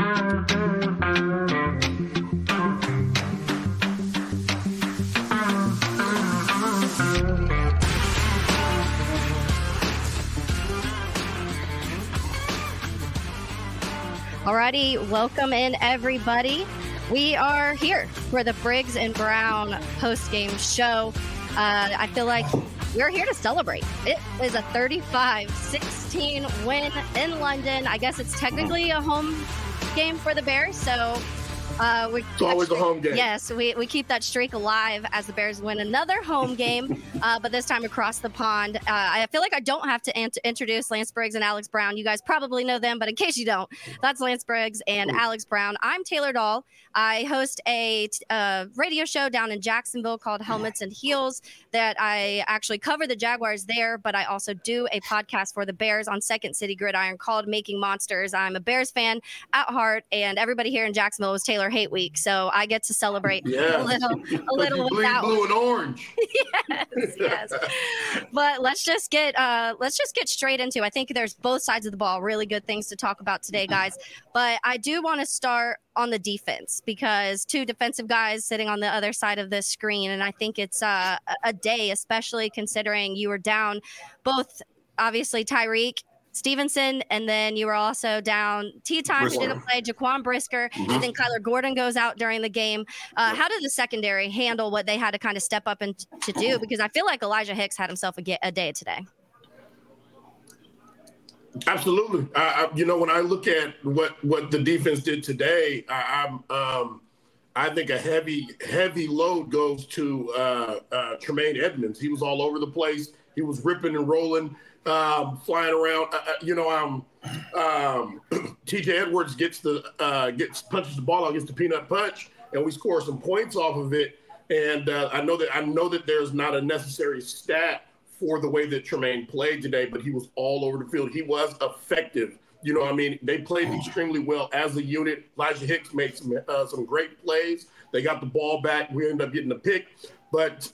Alrighty, welcome in everybody. We are here for the Briggs and Brown post-game show. I feel like we're here to celebrate. It is a 35-16 win in London. I guess it's technically a home game for the Bears, so it's always a home game. Yes, we keep that streak alive as the Bears win another home game, but this time across the pond. I feel like I don't have to introduce Lance Briggs and Alex Brown. You guys probably know them, but in case you don't, that's Lance Briggs and Alex Brown. I'm Taylor Dahl. I host a radio show down in Jacksonville called Helmets and Heels that I actually cover the Jaguars there, but I also do a podcast for the Bears on Second City Gridiron called Making Monsters. I'm a Bears fan at heart, and everybody here in Jacksonville is Taylor Hate Week, so I get to celebrate a little with that blue and orange. yes. But let's just get straight into. I think there's both sides of the ball. Really good things to talk about today, guys. But I do want to start on the defense because two defensive guys sitting on the other side of this screen, and I think it's a day, especially considering you were down both, obviously Tyreek Stevenson, and then you were also down T-Time, who didn't play, Jaquan Brisker, and then Kyler Gordon goes out during the game. How did the secondary handle what they had to kind of step up and to do? Because I feel like Elijah Hicks had himself a day today. Absolutely. When I look at what the defense did today, I think a heavy load goes to Tremaine Edmonds. He was all over the place. He was ripping and rolling, flying around. TJ Edwards punches the ball out, gets the peanut punch, and we score some points off of it. And I know that there's not a necessary stat for the way that Tremaine played today, but he was all over the field. He was effective. They played extremely well as a unit. Elijah Hicks made some great plays. They got the ball back. We ended up getting a pick. But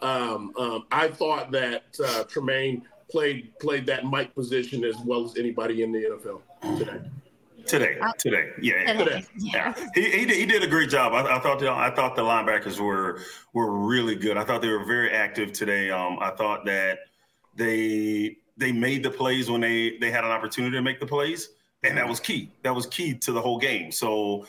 I thought that Tremaine played that Mike position as well as anybody in the NFL today. Today. Yeah. He did a great job. I thought the linebackers were really good. I thought they were very active today. I thought that they made the plays when they had an opportunity to make the plays, and that was key. That was key to the whole game. So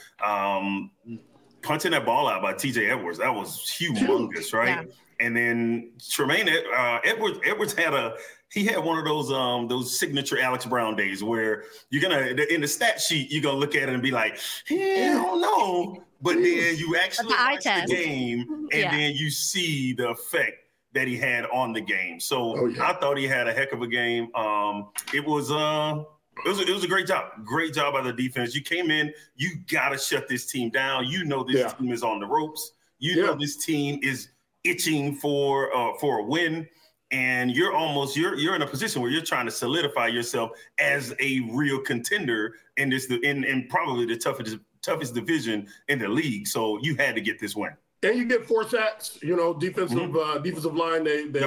punching that ball out by TJ Edwards, that was humongous, right? Yeah. And then Tremaine Edwards had one of those signature Alex Brown days where you're gonna, in the stat sheet, you're gonna look at it and be like, I don't know, but then you actually watch the game and then you see the effect that he had on the game. So I thought he had a heck of a game. It was a great job by the defense. You came in, you gotta shut this team down. You know this team is on the ropes. You know this team is itching for a win, and you're in a position where you're trying to solidify yourself as a real contender in probably the toughest division in the league. So you had to get this win. And you get 4 sacks. Defensive line.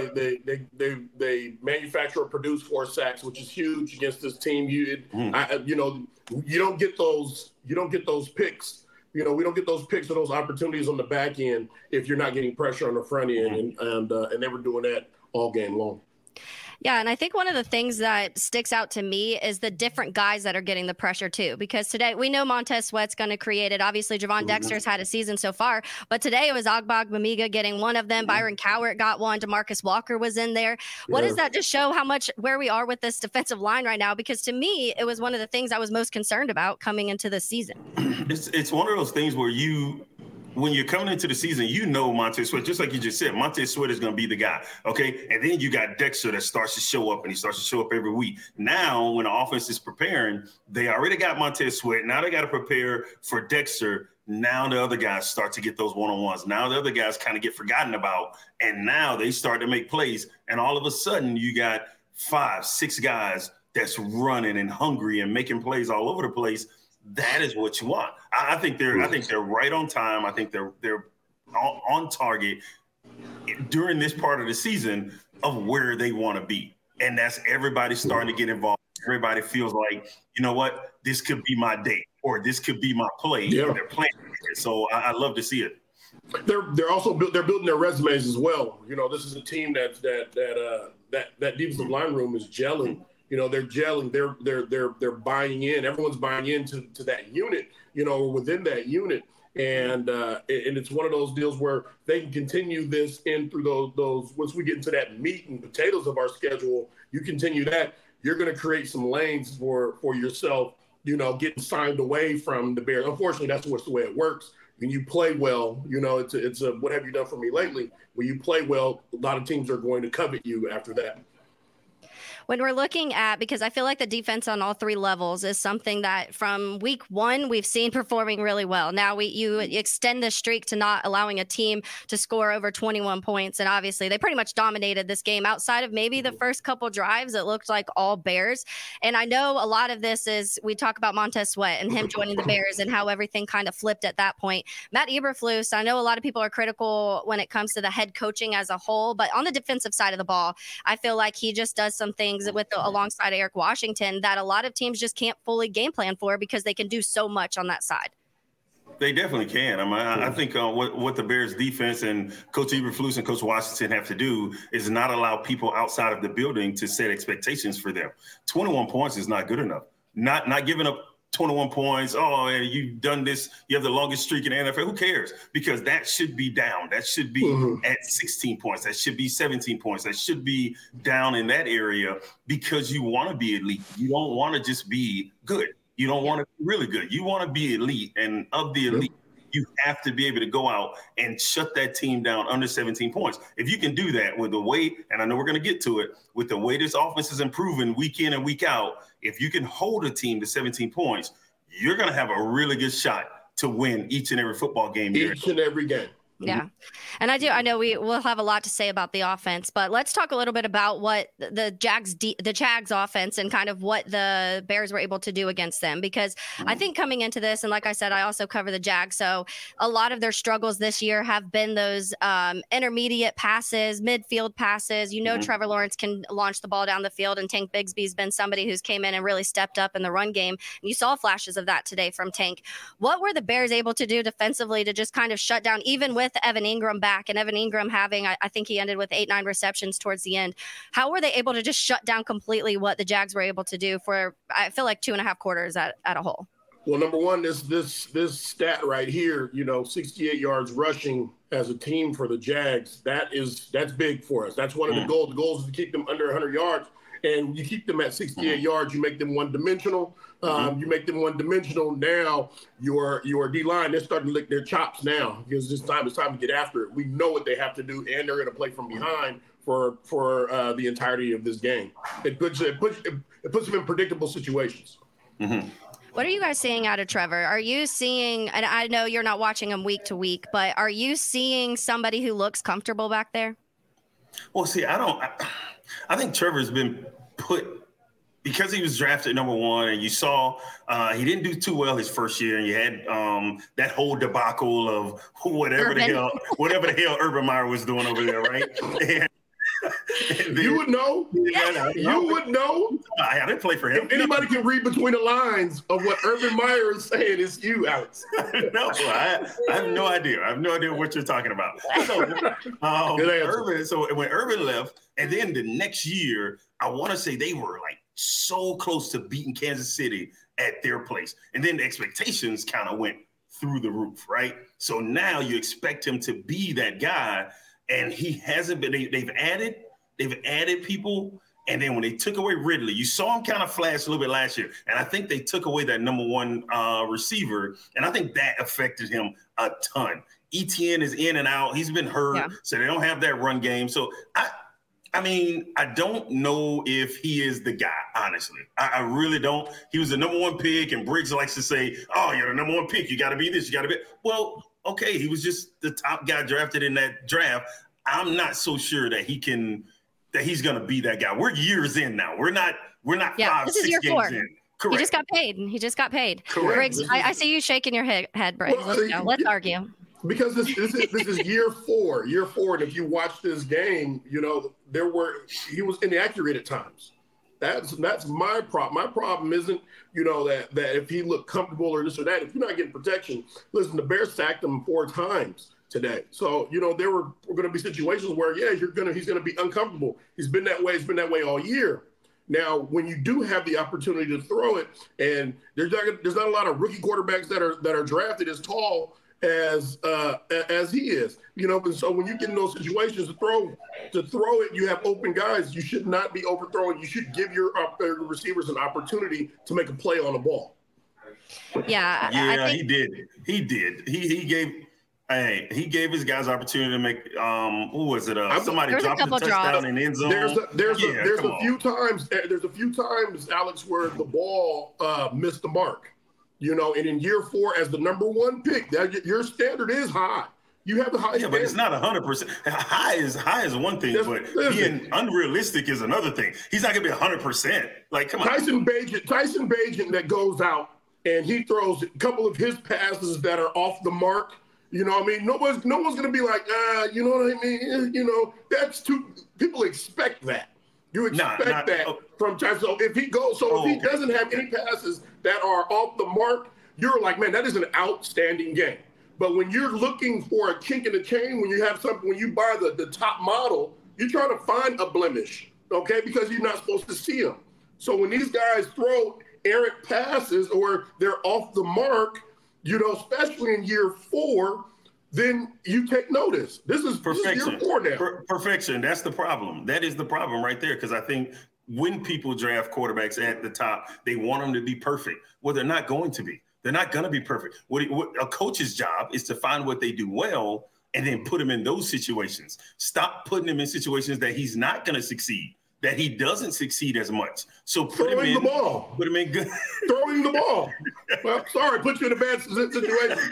They manufacture or produce 4 sacks, which is huge against this team. You don't get those. You don't get those picks. We don't get those picks or those opportunities on the back end if you're not getting pressure on the front end, and they were doing that all game long. Yeah, and I think one of the things that sticks out to me is the different guys that are getting the pressure too. Because today we know Montez Sweat's going to create it. Obviously, Javon Dexter's had a season so far, but today it was Ogbongbemiga getting one of them. Byron Cowart got one. DeMarcus Walker was in there. What does that just show where we are with this defensive line right now? Because to me, it was one of the things I was most concerned about coming into the season. It's one of those things where when you're coming into the season, Montez Sweat, just like you just said, Montez Sweat is going to be the guy, okay? And then you got Dexter that starts to show up, and he starts to show up every week. Now, when the offense is preparing, they already got Montez Sweat. Now they got to prepare for Dexter. Now the other guys start to get those one-on-ones. Now the other guys kind of get forgotten about, and now they start to make plays. And all of a sudden, you got 5, 6 guys that's running and hungry and making plays all over the place. That is what you want. I think they're right on time. I think they're on target during this part of the season of where they want to be. And that's everybody starting to get involved. Everybody feels like, you know what, this could be my day. or this could be my play. Yeah. And they're playing it. So I love to see it. They're also they're building their resumes as well. You know, this is a team that defensive line room is gelling. You know, they're gelling. They're buying in. Everyone's buying into that unit. You know, within that unit, and it's one of those deals where they can continue this in through those. Once we get into that meat and potatoes of our schedule, you continue that. You're going to create some lanes for yourself. You know, getting signed away from the Bears. Unfortunately, that's the way it works. When you play well, you know, it's a what have you done for me lately? When you play well, a lot of teams are going to covet you after that. When we're looking at, because I feel like the defense on all three levels is something that from week one we've seen performing really well. Now you extend the streak to not allowing a team to score over 21 points, and obviously they pretty much dominated this game. Outside of maybe the first couple drives, it looked like all Bears. And I know a lot of this is we talk about Montez Sweat and him joining the Bears and how everything kind of flipped at that point. Matt Eberflus, I know a lot of people are critical when it comes to the head coaching as a whole, but on the defensive side of the ball, I feel like he just does some things alongside Eric Washington that a lot of teams just can't fully game plan for because they can do so much on that side. They definitely can. I mean, I think what the Bears defense and Coach Eberflus and Coach Washington have to do is not allow people outside of the building to set expectations for them. 21 points is not good enough. Not giving up 21 points. Oh, and you've done this. You have the longest streak in the NFL. Who cares? Because that should be down. That should be at 16 points. That should be 17 points. That should be down in that area because you want to be elite. You don't want to just be good. You don't want to be really good. You want to be elite. And of the elite, you have to be able to go out and shut that team down under 17 points. If you can do that with the way, and I know we're going to get to it, with the way this offense is improving week in and week out, if you can hold a team to 17 points, you're going to have a really good shot to win each and every football game. Each and every game. Yeah. And I know we will have a lot to say about the offense, but let's talk a little bit about what the Jags offense and kind of what the Bears were able to do against them, because I think coming into this, and like I said, I also cover the Jags. So a lot of their struggles this year have been those intermediate passes, midfield passes. You know, Trevor Lawrence can launch the ball down the field, and Tank Bigsby's been somebody who's came in and really stepped up in the run game. And you saw flashes of that today from Tank. What were the Bears able to do defensively to just kind of shut down, even with Evan Ingram back, and Evan Ingram having, I think he ended with 8-9 receptions towards the end. How were they able to just shut down completely what the Jags were able to do for, I feel like, 2.5 quarters at a whole? Well, number one, this stat right here, you know, 68 yards rushing as a team for the Jags, that's big for us. That's one of the goals. The goal is to keep them under 100 yards. And you keep them at 68 yards, you make them one-dimensional. You make them one-dimensional. Now your D-line, they're starting to lick their chops now because it's time to get after it. We know what they have to do, and they're going to play from behind for the entirety of this game. It puts them in predictable situations. What are you guys seeing out of Trevor? Are you seeing, and I know you're not watching him week to week, but are you seeing somebody who looks comfortable back there? Well, see, I think Trevor's been put, because he was drafted number one, and you saw he didn't do too well his first year, and you had that whole debacle of whatever the hell Urban Meyer was doing over there, right? And you would know. You would know. I didn't play for him. If anybody can read between the lines of what Urban Meyer is saying, it's you, Alex. No, I have no idea. I have no idea what you're talking about. So when Urban left, and then the next year, I want to say they were like so close to beating Kansas City at their place. And then the expectations kind of went through the roof, right? So now you expect him to be that guy. And he hasn't been. They've added people, and then when they took away Ridley, you saw him kind of flash a little bit last year. And I think they took away that number one receiver, and I think that affected him a ton. ETN is in and out; he's been hurt, so they don't have that run game. So I mean, I don't know if he is the guy. Honestly, I really don't. He was the number one pick, and Briggs likes to say, "Oh, you're the number one pick. You got to be this. You got to be." Well. Okay, he was just the top guy drafted in that draft. I'm not so sure that he's going to be that guy. We're years in now. We're not 5, 6 games in. Correct. He just got paid. Correct. Briggs, I see you shaking your head, Briggs. Well, let's argue. Because this is year four, and if you watch this game, you know he was inaccurate at times. That's my problem. My problem isn't, that if he looked comfortable or this or that. If you're not getting protection, listen, the Bears sacked him 4 times today. So, there were going to be situations where, he's going to be uncomfortable. He's been that way. It's been that way all year. Now, when you do have the opportunity to throw it, and there's not a lot of rookie quarterbacks that are drafted as tall as he is, and so when you get in those situations to throw it, you have open guys. You should not be overthrowing. You should give your receivers an opportunity to make a play on the ball. Yeah, I think he did. He gave his guys opportunity to make. Who was it? Somebody dropped a touchdown in the end zone. There's a few times, Alex, where the ball missed the mark. And in year 4, as the number 1 pick, your standard is high. You have the high standard. But it's not 100%. High is one thing, but being unrealistic is another thing. He's not gonna be 100%. Like, come on. Tyson Bagent that goes out and he throws a couple of his passes that are off the mark. No one's going to be like, you know what I mean? That's too, people expect that. You expect that from Tyson. So if he doesn't have any passes that are off the mark, you're like, man, that is an outstanding game. But when you're looking for a kink in the chain, when you buy the top model, you're trying to find a blemish, okay? Because you're not supposed to see them. So when these guys throw errant passes or they're off the mark, especially in year 4, then you take notice. This is year 4 now. Perfection. That's the problem. That is the problem right there. Because I think when people draft quarterbacks at the top, they want them to be perfect. Well, they're not going to be. They're not going to be perfect. What a coach's job is to find what they do well and then put them in those situations. Stop putting him in situations that he's not going to succeed, that he doesn't succeed as much. So throwing the ball. Put him in good. Throwing the ball. Well, sorry, put you in a bad situation.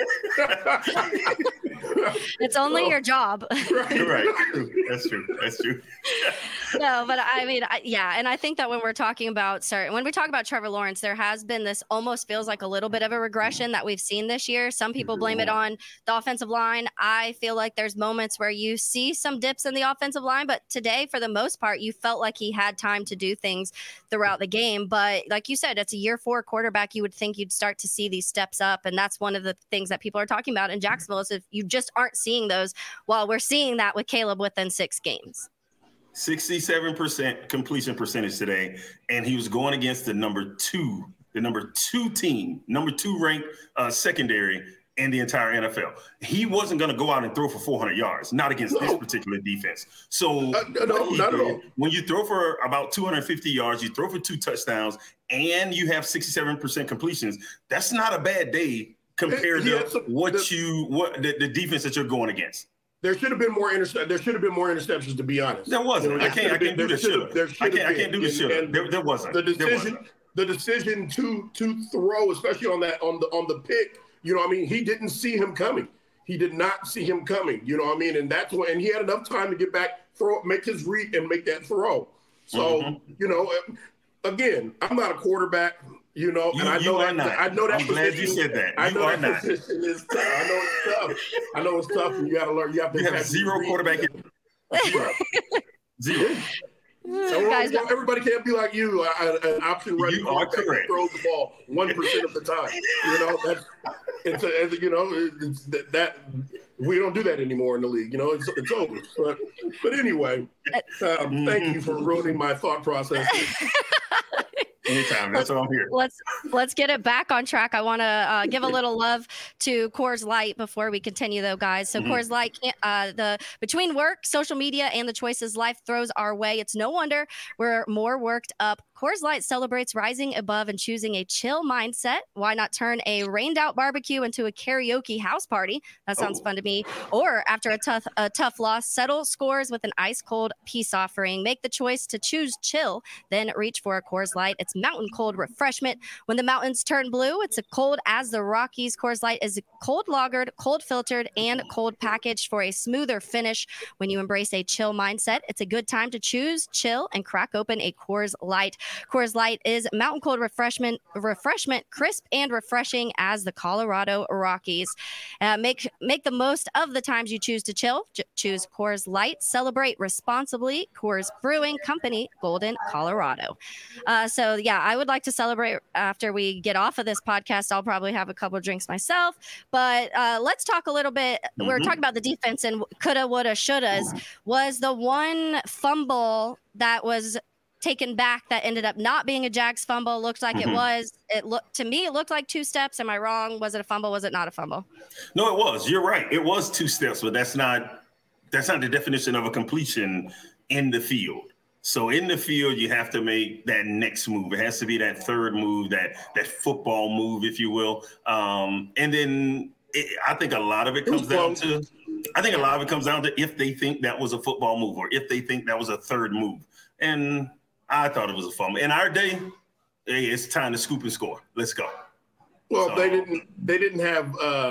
It's only your job. Right. That's true. No, but I mean, and I think that when we talk about Trevor Lawrence, there has been this almost feels like a little bit of a regression that we've seen this year. Some people blame it on the offensive line. I feel like there's moments where you see some dips in the offensive line, but today, for the most part, you felt like he had time to do things throughout the game. But like you said, it's a year 4 quarterback. You would think you'd start to see these steps up. And that's one of the things that people are talking about in Jacksonville is if you just aren't seeing those, while we're seeing that with Caleb within 6 games. 67% completion percentage today, and he was going against the number 2 team, number 2 ranked secondary in the entire NFL. He wasn't going to go out and throw for 400 yards, not against this particular defense. So not at all. When you throw for about 250 yards, you throw for 2 touchdowns, and you have 67% completions, that's not a bad day compared to the defense that you're going against. There should have been more interceptions, to be honest. There wasn't. I can't do the should. I can't do the should. There wasn't. The decision to throw, especially on the pick, he didn't see him coming. He did not see him coming. And that's when he had enough time to get back, make his read, and make that throw. So again, I'm not a quarterback. And I know that. I'm glad you said that. You are not. Position is tough. I know it's tough. And you got to learn. You have 0 quarterback. Zero. So everybody can't be like you. An option running you are correct. Throws the ball 1% of the time. That we don't do that anymore in the league. It's over. But anyway, thank you for ruining my thought process. Anytime. That's what I'm here. Let's get it back on track. I want to give a little love to Coors Light before we continue, though, guys. So Coors Light, between work, social media, and the choices life throws our way, it's no wonder we're more worked up. Coors Light celebrates rising above and choosing a chill mindset. Why not turn a rained-out barbecue into a karaoke house party? That sounds fun to me. Or after a tough loss, settle scores with an ice-cold peace offering. Make the choice to choose chill, then reach for a Coors Light. It's mountain cold refreshment. When the mountains turn blue, it's a cold as the Rockies. Coors Light is cold lagered, cold filtered, and cold packaged for a smoother finish. When you embrace a chill mindset, it's a good time to choose chill and crack open a Coors Light. Coors Light is mountain cold refreshment, crisp and refreshing as the Colorado Rockies. Make the most of the times you choose to chill. Choose Coors Light. Celebrate responsibly. Coors Brewing Company, Golden, Colorado. So yeah, I would like to celebrate after we get off of this podcast. I'll probably have a couple of drinks myself, but let's talk a little bit. We're talking about the defense and coulda, woulda, shouldas. Was the one fumble that was taken back that ended up not being a Jags fumble? Looked like it was. It looked like 2 steps. Am I wrong? Was it a fumble? Was it not a fumble? No, it was. You're right. It was 2 steps, but that's not the definition of a completion in the field. So in the field, you have to make that next move. It has to be that third move, that football move, if you will. And then I think a lot of it comes down to if they think that was a football move or if they think that was a third move. And I thought it was a fumble. In our day, hey, it's time to scoop and score. Let's go. Well, so, they didn't have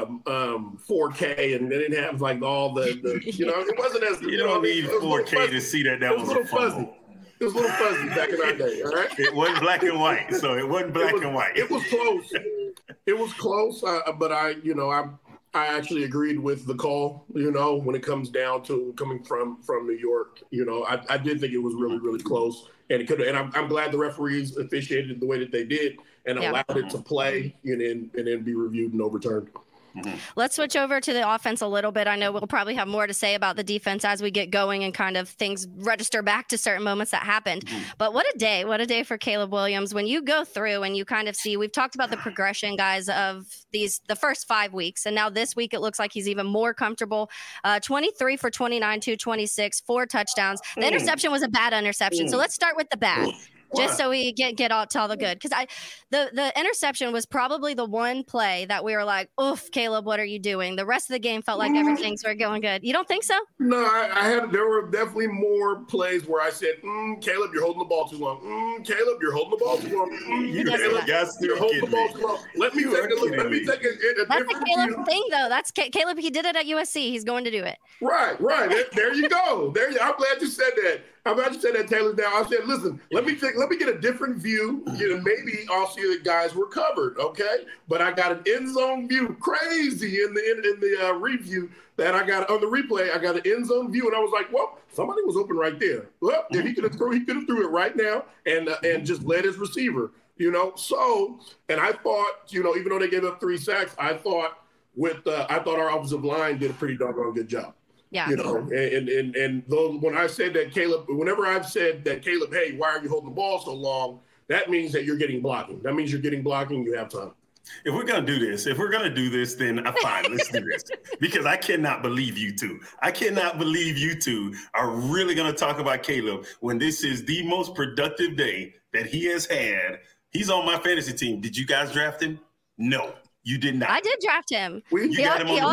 4K and they didn't have like all the it wasn't as you don't need 4K to see that was a fumble. Fuzzy. It was a little fuzzy back in our day, all right? It wasn't black and white, so it wasn't black and white. It was close. It was close, but I actually agreed with the call, when it comes down to coming from New York. I did think it was really, really close. And it could, and I'm glad the referees officiated the way that they did and allowed it to play and then be reviewed and overturned. Let's switch over to the offense a little bit. I know we'll probably have more to say about the defense as we get going and kind of things register back to certain moments that happened. But what a day for Caleb Williams. When you go through and you kind of see, we've talked about the progression, guys, of the first 5 weeks. And now this week, it looks like he's even more comfortable. 23 for 29, 226, 4 touchdowns. The interception was a bad interception. So let's start with the bad. Just so we get all the good. Because the interception was probably the one play that we were like, oof, Caleb, what are you doing? The rest of the game felt like everything's going good. You don't think so? No, there were definitely more plays where I said, Caleb, you're holding the ball too long. Caleb, you're holding the ball too long. Caleb, you're holding the ball too long. Let me take a look. Let me take a That's different a Caleb view. thing, though. That's Caleb. He did it at USC. He's going to do it. Right. There you go. I'm glad you said that. I'm glad you said that, Taylor. Now I said, listen, let me get a different view. Maybe I'll see the guys were covered, okay? But I got an end zone view, crazy in the review that I got on the replay. I got an end zone view, and I was like, well, somebody was open right there. Well, if he could have threw it right now and just led his receiver, So, and I thought, even though they gave up 3 sacks, I thought our offensive line did a pretty doggone good job. Yeah. And though when I said that whenever I've said that Caleb, hey, why are you holding the ball so long? That means that you're getting blocking. That means you're getting blocking. You have time. If we're going to do this, then fine, let's do this. Because I cannot believe you two. I cannot believe you two are really going to talk about Caleb when this is the most productive day that he has had. He's on my fantasy team. Did you guys draft him? No. You did not. I did draft him. He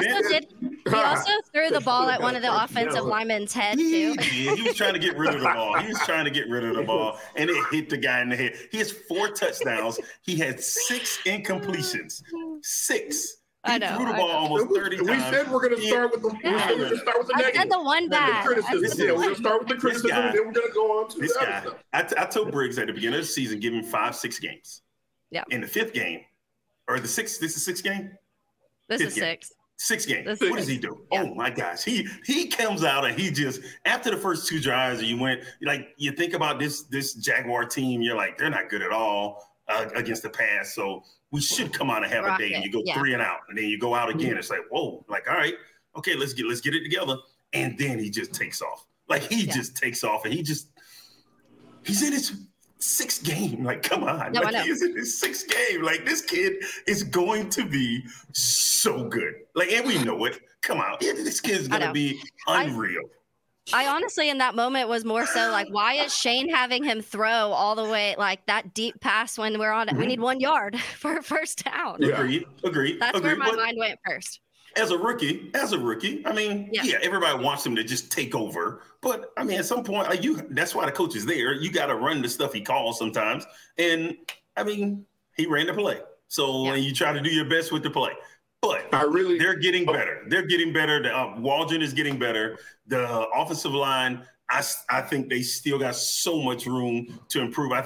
also threw the ball at one of the offensive linemen's head, too. He was trying to get rid of the ball. And it hit the guy in the head. He has 4 touchdowns. He had 6 incompletions. 6. He threw the ball almost 30 times. We said we're going to start with the negative. I said the one bad. We're going to start with the criticism, and then we're going to go on to this the guy. other stuff. I told Briggs at the beginning of the season, give him 5-6 games. Yeah. In the 5th game, or the 6th, this is 6th game? This is 6. 6th game. What does he do? Yeah. Oh my gosh. He comes out and he just, after the first 2 drives, you think about this Jaguar team, you're like, they're not good at all against the pass. So we should come out and have a day. And you go 3 and out, and then you go out again. It's like, whoa, like, all right, okay, let's get it together. And then he just takes off. Like just takes off, and he's in his 6th game. Like, come on. No, he's in his 6th game. Like, this kid is going to be so good. Like, and we know it. Come on. This kid's going to be unreal. I honestly, in that moment, was more so like, why is Shane having him throw all the way, like that deep pass when we're on it? We need 1 yard for a first down. Yeah. Agreed. That's where my mind went first. As a rookie, I mean, everybody wants him to just take over. But, I mean, at some point, that's why the coach is there. You got to run the stuff he calls sometimes. And, I mean, he ran the play. So you try to do your best with the play. But they're getting better. They're getting better. Waldron is getting better. The offensive line, I think they still got so much room to improve. I think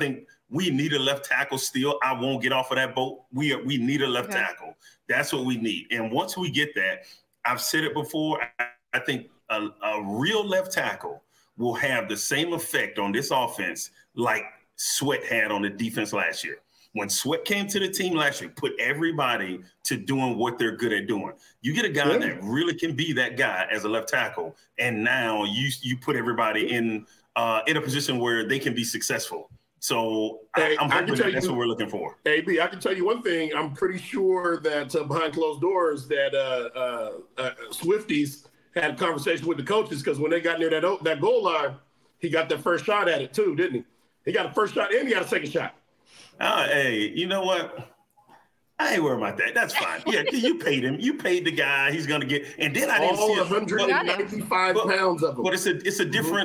We need a left tackle still. I won't get off of that boat. We need a left tackle. That's what we need. And once we get that, I've said it before, I think a real left tackle will have the same effect on this offense like Sweat had on the defense last year. When Sweat came to the team last year, put everybody to doing what they're good at doing. You get a guy that really can be that guy as a left tackle, and now you put everybody in a position where they can be successwiful. So I'm hoping that's what we're looking for. AB, I can tell you one thing. I'm pretty sure that behind closed doors that Swifties had a conversation with the coaches, because when they got near that goal line, he got that first shot at it too, didn't he? He got a first shot and he got a second shot. Hey, you know what? I ain't worried about that. That's fine. Yeah, you paid him. You paid the guy. He's gonna get. And then I didn't see 195 pounds of him. But it's a different.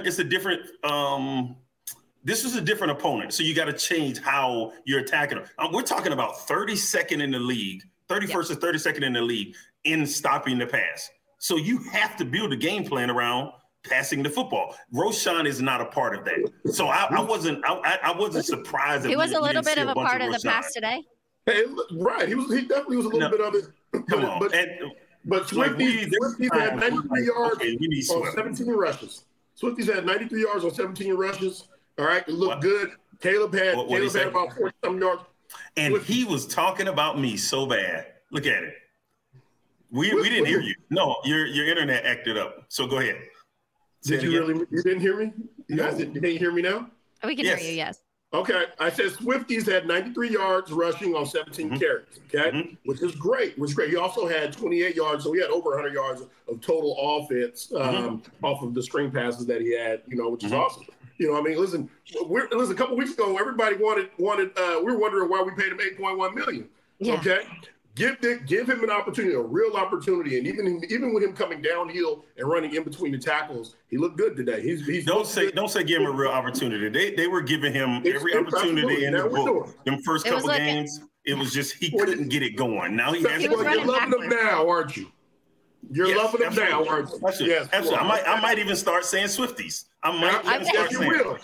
This is a different opponent, so you got to change how you're attacking them. We're talking about 32nd in the league, 31st or 32nd in the league in stopping the pass. So you have to build a game plan around passing the football. Roschon is not a part of that. So I wasn't surprised. He was a little bit of a part of the pass today. Hey, right. He definitely was a little bit of it. Come on. But Swifties had 93 yards on 17 rushes. Swifties had 93 yards on 17 rushes. All right, it looked good. Caleb had about 40-some yards. And he was talking about me so bad. Look at it. We didn't hear you. No, your internet acted up. So go ahead. Did you really? You didn't hear me? You guys didn't hear me now? We can hear you, yes. Okay, I said Swifties had 93 yards rushing on 17 carries, okay, which is great. He also had 28 yards, so he had over 100 yards of total offense off of the string passes that he had, which is awesome. I mean, listen, a couple weeks ago, everybody wanted. We were wondering why we paid him $8.1 million. Yeah. Okay, give him an opportunity, a real opportunity, and even with him coming downhill and running in between the tackles, he looked good today. Don't say give him a real opportunity. They were giving him every opportunity in the book. Them first couple games, it was just he couldn't get it going. Now he has. You're loving him now, aren't you? You're loving them now, aren't you? Yes, absolutely. I might even start saying Swifties. I might start saying will.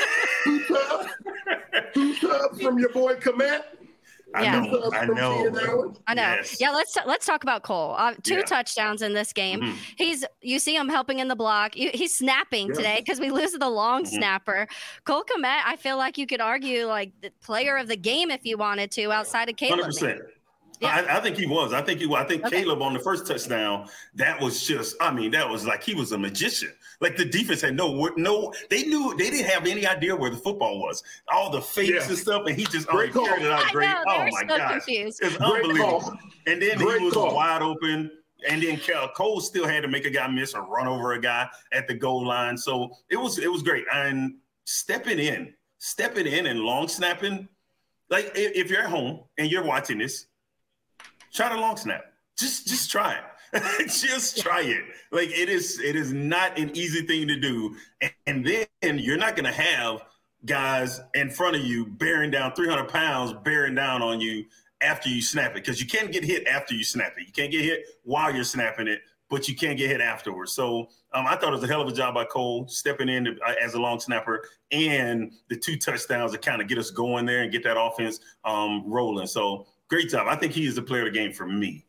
Two tubs from your boy Komet. I know. Yes. Yeah, let's talk about Cole. 2 touchdowns in this game. You see him helping in the block. He's snapping today because we lose the long snapper. Cole Komet, I feel like you could argue like the player of the game if you wanted to, outside of Caleb. 100%. Yeah. I think he was. I think Caleb on the first touchdown, that was like he was a magician. Like the defense had they didn't have any idea where the football was. All the fakes and stuff, and he just carried it out great. Oh my gosh. Confused. It's unbelievable. And then he was wide open. And then Cole still had to make a guy miss or run over a guy at the goal line. So it was great. And stepping in and long snapping, like if you're at home and you're watching this, try the long snap. Just try it. Just try it. Like it is not an easy thing to do. And then you're not going to have guys in front of you bearing down 300 pounds, bearing down on you after you snap it. Because you can't get hit after you snap it. You can't get hit while you're snapping it, but you can't get hit afterwards. So I thought it was a hell of a job by Cole stepping in as a long snapper, and the 2 touchdowns to kind of get us going there and get that offense rolling. So great job. I think he is the player of the game for me.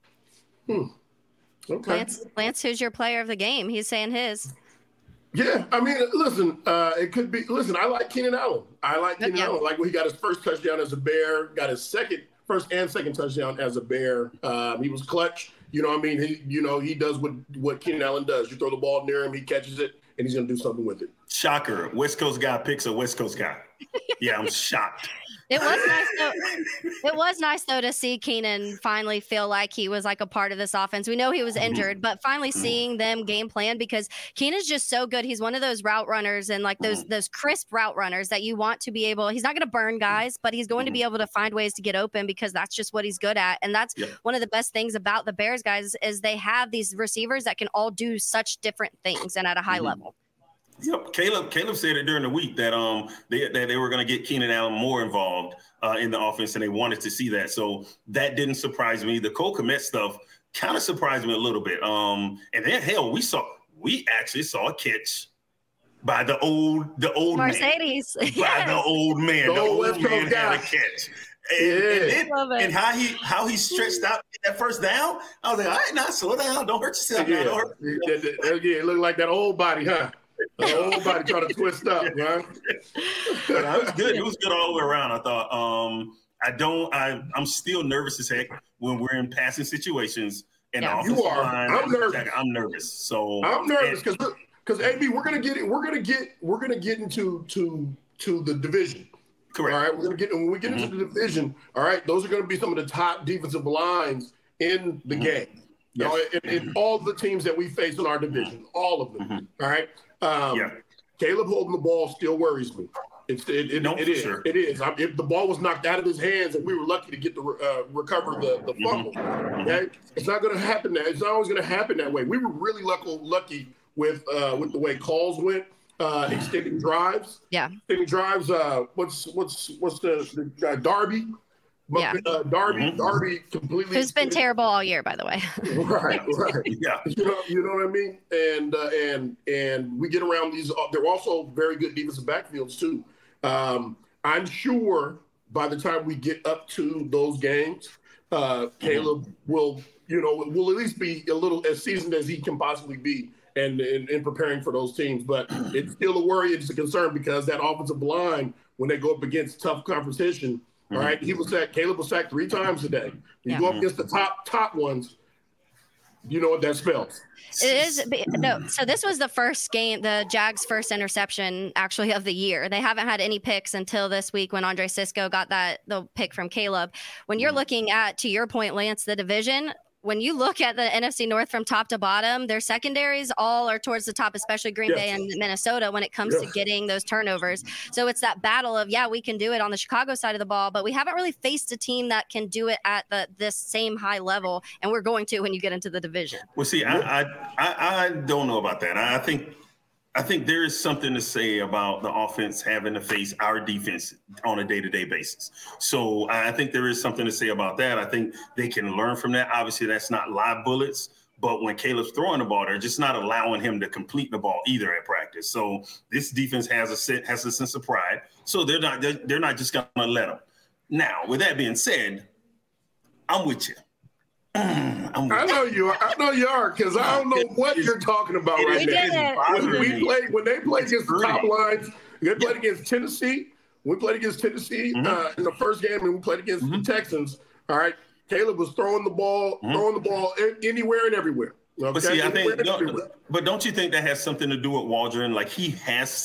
Okay. Lance, who's your player of the game? He's saying his. Yeah, I mean, listen, it could be. Listen, I like Keenan Allen. Allen. Like when he got his first touchdown as a Bear, got his first and second touchdown as a Bear. He was clutch. You know what I mean? He does what Keenan Allen does. You throw the ball near him, he catches it, and he's going to do something with it. Shocker. West Coast guy picks a West Coast guy. Yeah, I'm shocked. It was nice though to see Keenan finally feel like he was like a part of this offense. We know he was injured, but finally seeing them game plan, because Keenan's just so good. He's one of those route runners and like those crisp route runners that you want to be able. He's not going to burn guys, but he's going to be able to find ways to get open because that's just what he's good at. And that's one of the best things about the Bears guys is they have these receivers that can all do such different things and at a high level. Yep, Caleb said it during the week that they were going to get Keenan Allen more involved in the offense, and they wanted to see that. So that didn't surprise me. The Cole Kmet stuff kind of surprised me a little bit. And then we actually saw a catch by the old Mercedes. Man. By the old man. The old man had a catch. And how he stretched out that first down. I was like, all right, now slow down. Don't hurt yourself. Yeah, it looked like that old body, huh? The old body trying to twist up, right? It was good. It was good all the way around. I thought. I'm still nervous as heck when we're in passing situations. And the offensive line, I'm nervous. I'm nervous. So I'm nervous because AB, we're gonna get into the division. Correct. All right, when we get into the division. All right, those are going to be some of the top defensive lines in the game. Yes. In all the teams that we face in our division, all of them. All right. Caleb holding the ball still worries me. It is. Sure. It is. If the ball was knocked out of his hands and we were lucky to get to recover the fumble, okay, it's not going to happen. It's not always going to happen that way. We were really lucky with the way calls went. Extending drives. Yeah. Extending drives. What's the Darby? Darby completely. Who's been terrible all year, by the way. Right. Yeah. You know what I mean? And we get around these. They're also very good defensive backfields too. I'm sure by the time we get up to those games, Caleb will at least be a little as seasoned as he can possibly be. And in preparing for those teams. But it's still a worry, it's a concern because that offensive line, when they go up against tough competition, all right, Caleb was sacked 3 times today. You go up against the top ones, you know what that spells. It is so this was the first game, the Jags' first interception actually of the year. They haven't had any picks until this week when Andre Cisco got the pick from Caleb. When you're looking at, to your point, Lance, the division, when you look at the NFC North from top to bottom, their secondaries all are towards the top, especially Green Bay and Minnesota when it comes to getting those turnovers. So it's that battle of, we can do it on the Chicago side of the ball, but we haven't really faced a team that can do it at this same high level, and we're going to when you get into the division. Well, see, I don't know about that. I think there is something to say about the offense having to face our defense on a day-to-day basis. So I think there is something to say about that. I think they can learn from that. Obviously, that's not live bullets, but when Caleb's throwing the ball, they're just not allowing him to complete the ball either at practice. So this defense has a sense of pride. So they're not just going to let him. Now, with that being said, I'm with you. I know you are because I don't know what you're talking about right now. When they played against the top lines, they played against Tennessee. We played against Tennessee in the first game, and we played against the Texans. All right, Caleb was throwing the ball anywhere and everywhere. Okay? But see, but don't you think that has something to do with Waldron? Like he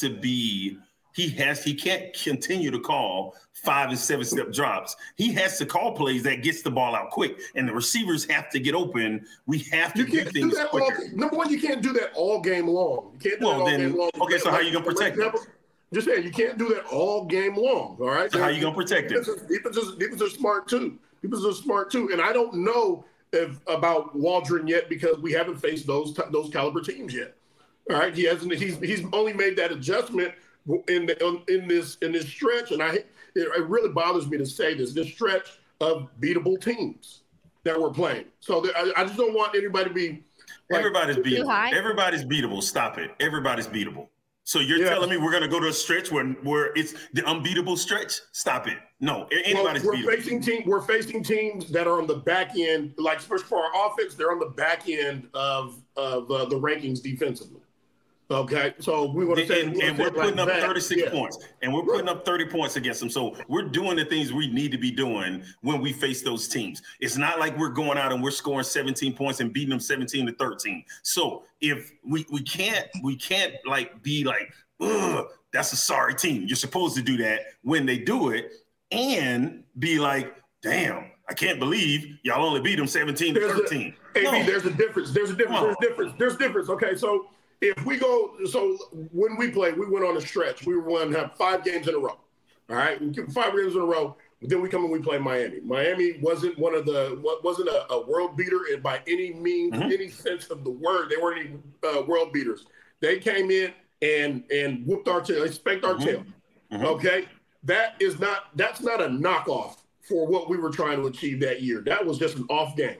can't continue to call 5 and 7 step drops. He has to call plays that gets the ball out quick, and the receivers have to get open. We have to do things quicker. Number one, you can't do that all game long. You can't do that all game long. Okay, so how are you going to protect them? Just saying, you can't do that all game long, all right? So how are you going to protect them? Defenses are smart, too. And I don't know about Waldron yet because we haven't faced those caliber teams yet. All right? He's only made that adjustment in this stretch, and it really bothers me to say this stretch of beatable teams that we're playing. So I just don't want anybody to be like, everybody's beatable. Everybody's beatable. Stop it. Everybody's beatable. So you're telling me we're going to go to a stretch where it's the unbeatable stretch? Stop it. No, anybody's beatable. We're facing teams that are on the back end, like especially for our offense, they're on the back end of the rankings defensively. Okay, so we want to say, and we're putting up 36 points, and we're putting up 30 points against them. So we're doing the things we need to be doing when we face those teams. It's not like we're going out and we're scoring 17 points and beating them 17-13. So if we can't like be like, ugh, that's a sorry team. You're supposed to do that when they do it, and be like, damn, I can't believe y'all only beat them 17-13. There's a difference. There's a difference. Okay, so. If we go, so when we played, we went on a stretch. We were going to have 5 games in a row. All right, 5 games in a row. Then we come and we play Miami. Miami wasn't a world beater by any means, any sense of the word. They weren't any world beaters. They came in and whooped our tail. They spanked our tail. Okay, that's not a knockoff for what we were trying to achieve that year. That was just an off game.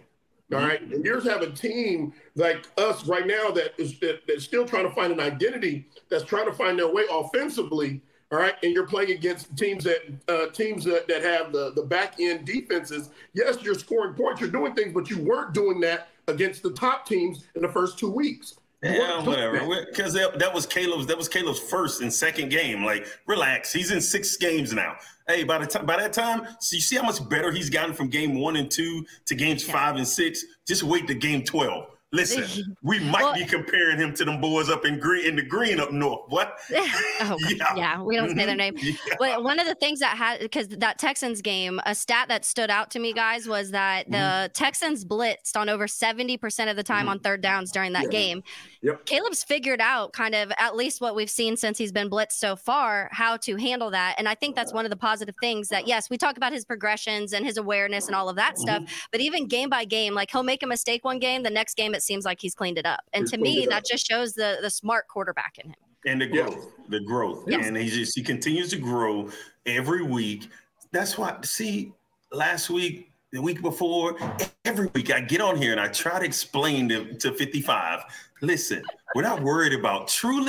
All right. And yours have a team like us right now that's still trying to find an identity, that's trying to find their way offensively. All right. And you're playing against teams that have the back end defenses. Yes, you're scoring points, you're doing things, but you weren't doing that against the top teams in the first 2 weeks. Yeah, whatever. Because that was Caleb's first and second game. Like, relax. He's in 6 games now. Hey, by that time, so you see how much better he's gotten from game 1 and 2 to games 5 and 6. Just wait to game 12. Listen, we might be comparing him to them boys up in the green up north. What? Yeah, we don't say their name. Yeah. But one of the things because that Texans game, a stat that stood out to me, guys, was that the Texans blitzed on over 70% of the time on third downs during that game. Yep. Caleb's figured out kind of, at least what we've seen since he's been blitzed so far, how to handle that. And I think that's one of the positive things that, yes, we talk about his progressions and his awareness and all of that stuff, but even game by game, like he'll make a mistake one game, the next game it seems like he's cleaned it up. And to me, that just shows the smart quarterback in him. And the growth. Yes. And he continues to grow every week. That's why, see, last week, the week before, every week I get on here and I try to explain to 55, listen, we're not worried about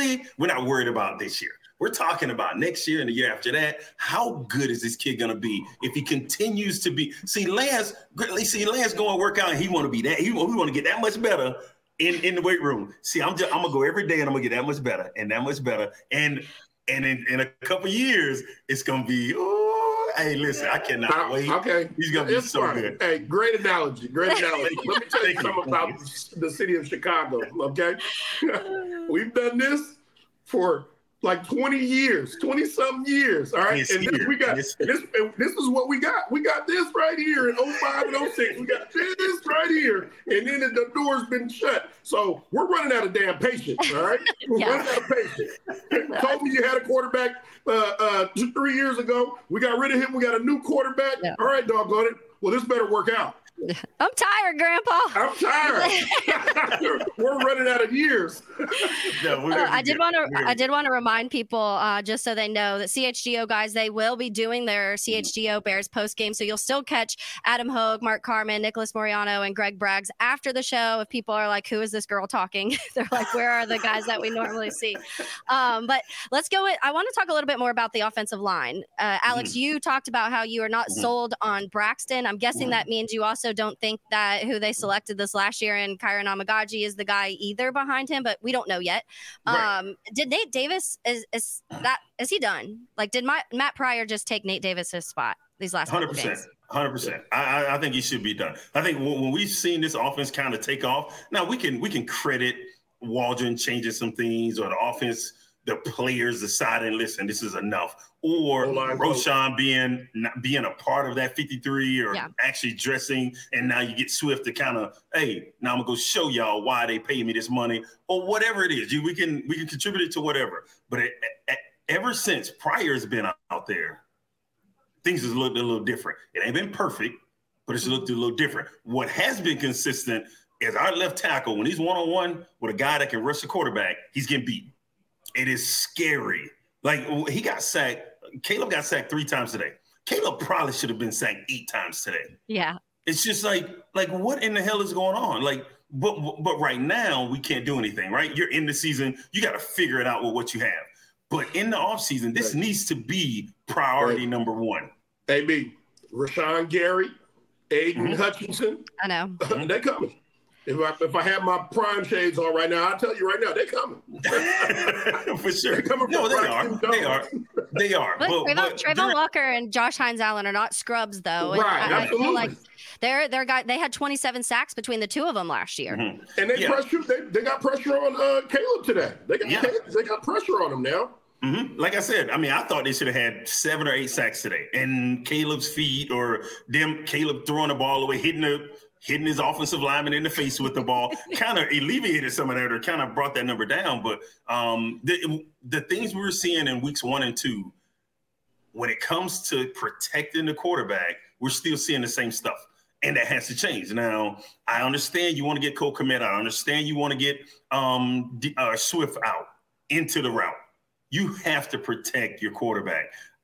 this year. We're talking about next year and the year after that. How good is this kid going to be if he continues to be? See, Lance going to work out and he want to be that. We want to get that much better in the weight room. See, I'm going to go every day and I'm going to get that much better and that much better. And in a couple of years, it's going to be, hey, listen, I cannot wait. Okay. He's going to be so good. Hey, great analogy. Let me tell you something about the city of Chicago, okay? We've done this for like 20-something years, all right? And we got this is what we got. We got this right here in 05 and 06. We got this right here. And then the door's been shut. So we're running out of damn patience, all right? We're running out of patience. Told me you had a quarterback 3 years ago. We got rid of him. We got a new quarterback. Yeah. All right, doggone it. Well, this better work out. I'm tired, Grandpa. I'm tired. We're running out of years. I did want to remind people, just so they know, that CHGO guys, they will be doing their CHGO Bears post game. So you'll still catch Adam Hogue, Mark Carman, Nicholas Moriano, and Greg Braggs after the show. If people are like, "Who is this girl talking?" They're like, "Where are the guys that we normally see?" But let's go. I want to talk a little bit more about the offensive line. Alex, you talked about how you are not sold on Braxton. I'm guessing that means you also don't think that who they selected this last year in Kyron Amagaji is the guy either behind him, but we don't know yet. Right. Did Nate Davis is he done? Like, did Matt Pryor just take Nate Davis's spot these last 100%? 100%. I think he should be done. I think when we've seen this offense kind of take off, now we can credit Waldron changing some things, or the offense, the players deciding, listen, this is enough. Or Roschon being a part of that 53, or actually dressing, and now you get Swift to kind of, hey, now I'm gonna go show y'all why they pay me this money, or whatever it is. We can contribute it to whatever. But ever since Pryor's been out there, things has looked a little different. It ain't been perfect, but it's looked a little different. What has been consistent is our left tackle, when he's one-on-one with a guy that can rush the quarterback, he's getting beat. It is scary. Like, he got sacked. Caleb got sacked 3 times today. Caleb probably should have been sacked 8 times today. Yeah. It's just like what in the hell is going on? Like, but right now we can't do anything, right? You're in the season. You got to figure it out with what you have. But in the offseason, this needs to be priority number 1. AB, Rashawn Gary, Aiden Hutchinson. I know. They're coming. If I have my prime shades on right now, I'll tell you right now, they're coming. For sure. They're coming. No, they are. But Trayvon Walker and Josh Hines-Allen are not scrubs, though. Right, I feel like they had 27 sacks between the 2 of them last year. And they got pressure on Caleb today. They got pressure on him now. Like I said, I mean, I thought they should have had 7 or 8 sacks today. And Caleb's feet, or Caleb throwing the ball away, hitting his offensive lineman in the face with the ball, kind of alleviated some of that, or kind of brought that number down. But the things we were seeing in weeks 1 and 2, when it comes to protecting the quarterback, we're still seeing the same stuff. And that has to change. Now, I understand you want to get Cole Kmet out. I understand you want to get Swift out into the route. You have to protect your quarterback.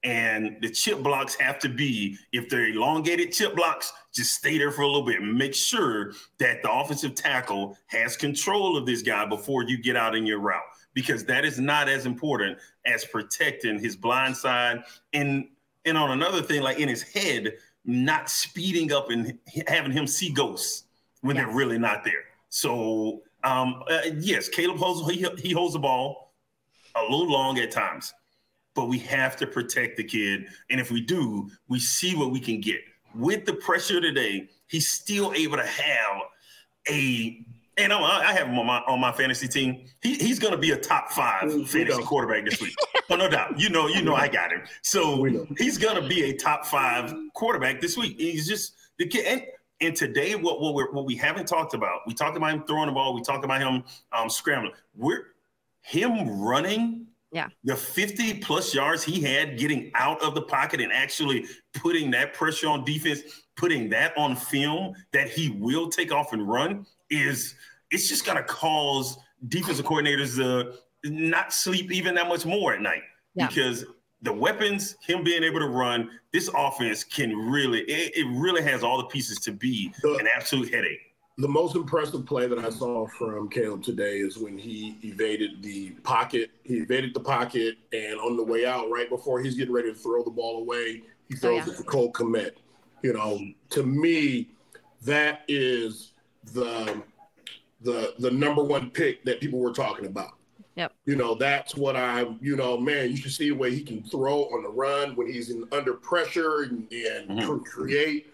And the chip blocks have to be, if they're elongated chip blocks, just stay there for a little bit and make sure that the offensive tackle has control of this guy before you get out in your route, because that is not as important as protecting his blind side. And on another thing, like in his head, not speeding up and having him see ghosts when they're really not there. So, yes, Caleb he holds the ball a little long at times, but we have to protect the kid. And if we do, we see what we can get. With the pressure today, he's still able to have and I have him on my fantasy team. He's going to be a top 5 fantasy quarterback this week. Oh, no doubt. You know, I got him. So he's going to be a top 5 quarterback this week. He's just the kid. And today, what we haven't talked about, we talked about him throwing the ball. We talked about him scrambling. Him running. Yeah. The 50+ yards he had getting out of the pocket and actually putting that pressure on defense, putting that on film that he will take off and run it's just going to cause defensive coordinators to not sleep even that much more at night because the weapons, him being able to run, this offense can really has all the pieces to be an absolute headache. The most impressive play that I saw from Caleb today is when he evaded the pocket. He evaded the pocket, and on the way out, right before he's getting ready to throw the ball away, he throws it to Cole Kmet. You know, to me, that is the number one pick that people were talking about. Yep. You know, that's what you should see the way he can throw on the run when he's under pressure and create,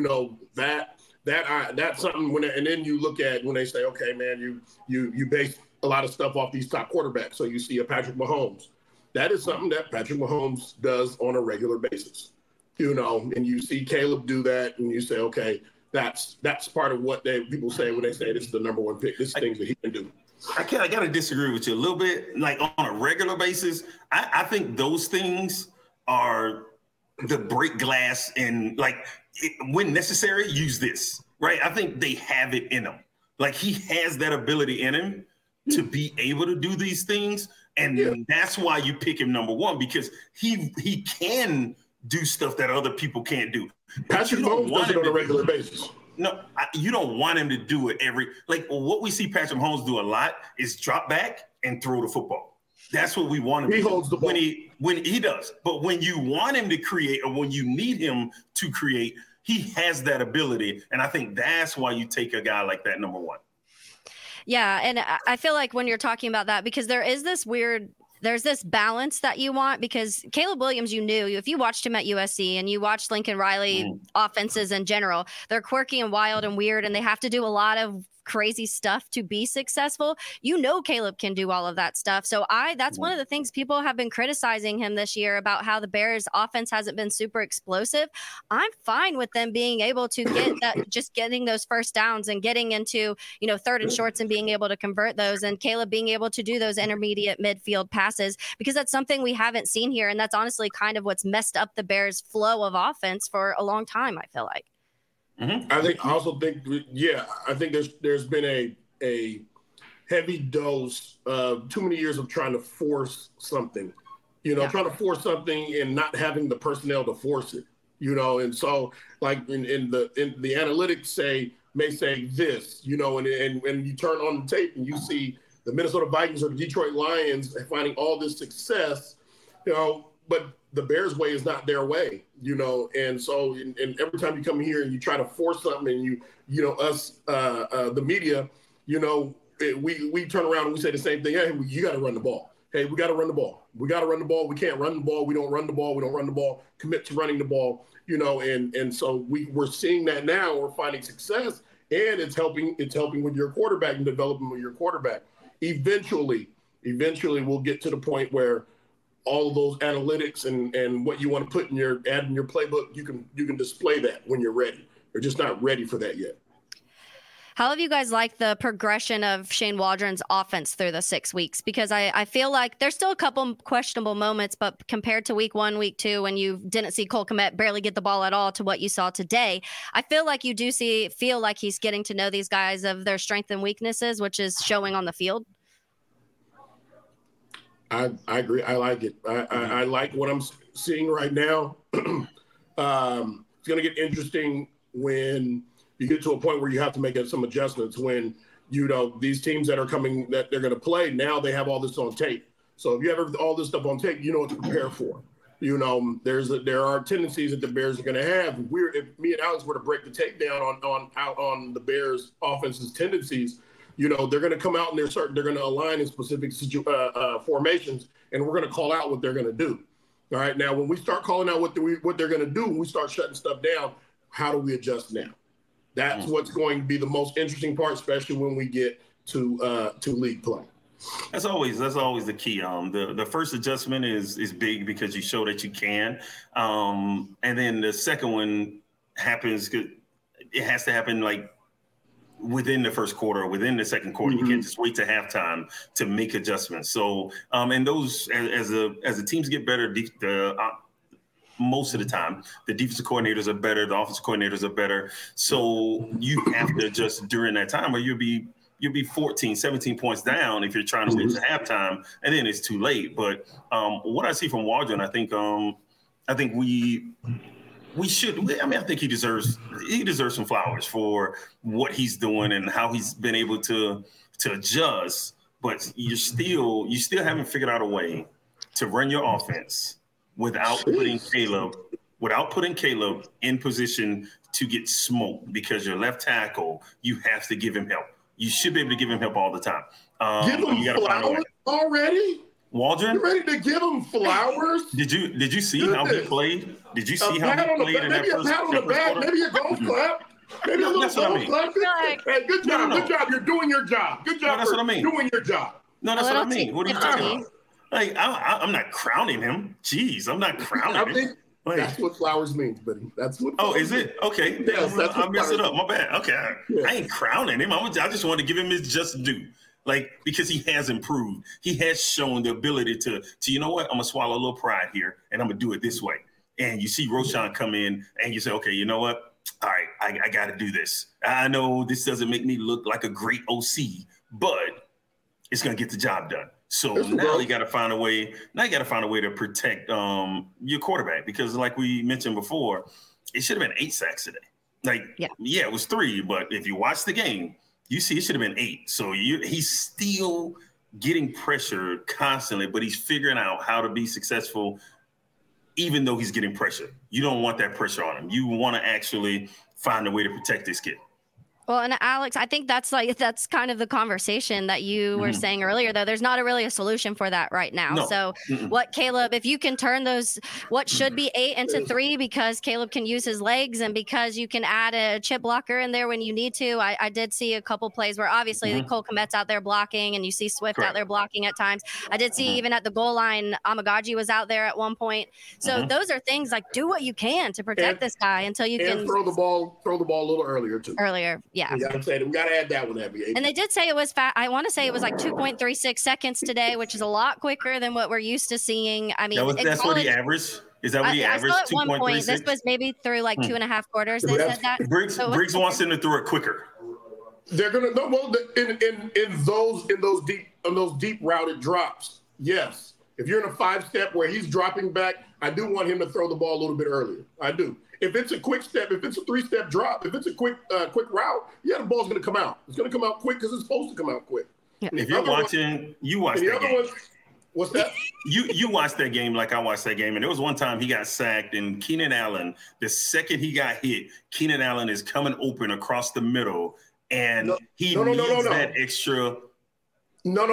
that's something and then you look at when they say, okay, man, you base a lot of stuff off these top quarterbacks. So you see a Patrick Mahomes. That is something that Patrick Mahomes does on a regular basis, and you see Caleb do that and you say, okay, that's part of what people say when they say this is the number one pick. This is things that he can do. I got to disagree with you a little bit. Like on a regular basis, I think those things are the break glass and when necessary, use this, right? I think they have it in him. Like he has that ability in him to be able to do these things. And that's why you pick him number one, because he can do stuff that other people can't do. Patrick Mahomes does it on a regular basis. No, you don't want him to do it what we see Patrick Mahomes do a lot is drop back and throw the football. That's what we want him to do. He holds the ball. When he does. But when you want him to create or when you need him to create, he has that ability. And I think that's why you take a guy like that, number one. Yeah, and I feel like when you're talking about that, because there's this balance that you want, because Caleb Williams, if you watched him at USC and you watched Lincoln Riley offenses in general, they're quirky and wild and weird, and they have to do a lot of crazy stuff to be successful. Caleb can do all of that stuff. So that's one of the things people have been criticizing him this year about how the Bears offense hasn't been super explosive. I'm fine with them being able to get that, just getting those first downs and getting into, third and shorts and being able to convert those, and Caleb being able to do those intermediate midfield passes, because that's something we haven't seen here. And that's honestly kind of what's messed up the Bears' flow of offense for a long time, I feel like. Mm-hmm. I think there's been a heavy dose of too many years of trying to force something, trying to force something and not having the personnel to force it, and so like in the analytics may say this, and when you turn on the tape and you see the Minnesota Vikings or the Detroit Lions finding all this success, but the Bears' way is not their way, and so and every time you come here and you try to force something and the media, we turn around and we say the same thing. Hey, you got to run the ball. Hey, we got to run the ball. We got to run the ball. We can't run the ball. We don't run the ball. We don't run the ball. Commit to running the ball, and so we're seeing that now. We're finding success, and it's helping with your quarterback and developing with your quarterback. Eventually we'll get to the point where all of those analytics and what you want to put in your playbook, you can display that when you're ready. You're just not ready for that yet. How have you guys liked the progression of Shane Waldron's offense through the 6 weeks? Because I feel like there's still a couple questionable moments, but compared to week 1, week 2, when you didn't see Cole Kmet barely get the ball at all, to what you saw today, I feel like you do feel like he's getting to know these guys of their strengths and weaknesses, which is showing on the field. I agree. I like it. I like what I'm seeing right now. It's going to get interesting when you get to a point where you have to make some adjustments. When these teams that are coming that they're going to play now, they have all this on tape. So if you have all this stuff on tape, you know what to prepare for. There are tendencies that the Bears are going to have. If me and Alex were to break the tape down on the Bears' offense's tendencies, they're going to come out and they're going to align in specific formations, and we're going to call out what they're going to do. All right. Now, when we start calling out what they're going to do, when we start shutting stuff down, how do we adjust now? That's what's going to be the most interesting part, especially when we get to league play. That's always the key. The first adjustment is big because you show that you can, and then the second one happens. It has to happen like within the first quarter or within the second quarter. You can't just wait to halftime to make adjustments. So, and those as the teams get better, most of the time, the defensive coordinators are better, the offensive coordinators are better. So you have to adjust during that time, or you'll be 14, 17 points down if you're trying to win to halftime, and then it's too late. But what I see from Waldron, I think we should. I think he deserves some flowers for what he's doing and how he's been able to adjust. But you still haven't figured out a way to run your offense without putting Caleb in position to get smoked, because your left tackle, you have to give him help. You should be able to give him help all the time. Give him flowers already? Waldron? You ready to give him flowers? Did you see how he played? Did you see how he played in that first quarter? Maybe a pat on the back, maybe a golf clap. Maybe a little golf clap. Hey, good job. Good job. You're doing your job. Good job for doing your job. No, that's what I mean. What are you talking about? Like, I'm not crowning him. Jeez, I'm not crowning him. That's what flowers means, buddy. That's what. Oh, is it? Okay. Yes, I messed it up. My bad. Okay. Yeah. I ain't crowning him. I just want to give him his just due. Like, because he has improved. He has shown the ability to you know what? I'm going to swallow a little pride here, and I'm going to do it this way. And you see Roschon come in, and you say, okay, you know what? All right, I got to do this. I know this doesn't make me look like a great OC, but it's going to get the job done. So now you got to find a way. Now you got to find a way to protect your quarterback, because, like we mentioned before, it should have been 8 sacks today. Like, yeah, it was 3, but if you watch the game, you see it should have been 8. So he's still getting pressure constantly, but he's figuring out how to be successful, even though he's getting pressure. You don't want that pressure on him. You want to actually find a way to protect this kid. Well, and Alex, I think that's kind of the conversation that you were saying earlier, though. There's not really a solution for that right now. No. So what Caleb, if you can turn what should be 8 into 3, because Caleb can use his legs and because you can add a chip blocker in there when you need to. I did see a couple plays where obviously Cole Kmet's out there blocking and you see Swift out there blocking at times. I did see even at the goal line, Amagaji was out there at one point. So those are things like, do what you can to protect this guy until you can throw the ball a little earlier too. Yeah. We got to add that one, Abby. And they did say it was I want to say it was like 2.36 seconds today, which is a lot quicker than what we're used to seeing. I mean, that's what he averaged. Is that what he averaged? I saw at one point, this was maybe through like 2.5 quarters. They said that. Briggs wants him to throw it quicker. They're gonna in those deep routed drops. Yes, if you're in a 5-step where he's dropping back, I do want him to throw the ball a little bit earlier. I do. If it's a quick step, if it's a 3-step drop, if it's a quick route, the ball's going to come out. It's going to come out quick because it's supposed to come out quick. Yeah. If you're watching, you watch that game. What's that? You watched that game like I watched that game, and there was one time he got sacked, and Keenan Allen, the second he got hit, Keenan Allen is coming open across the middle, and he needs that extra. No.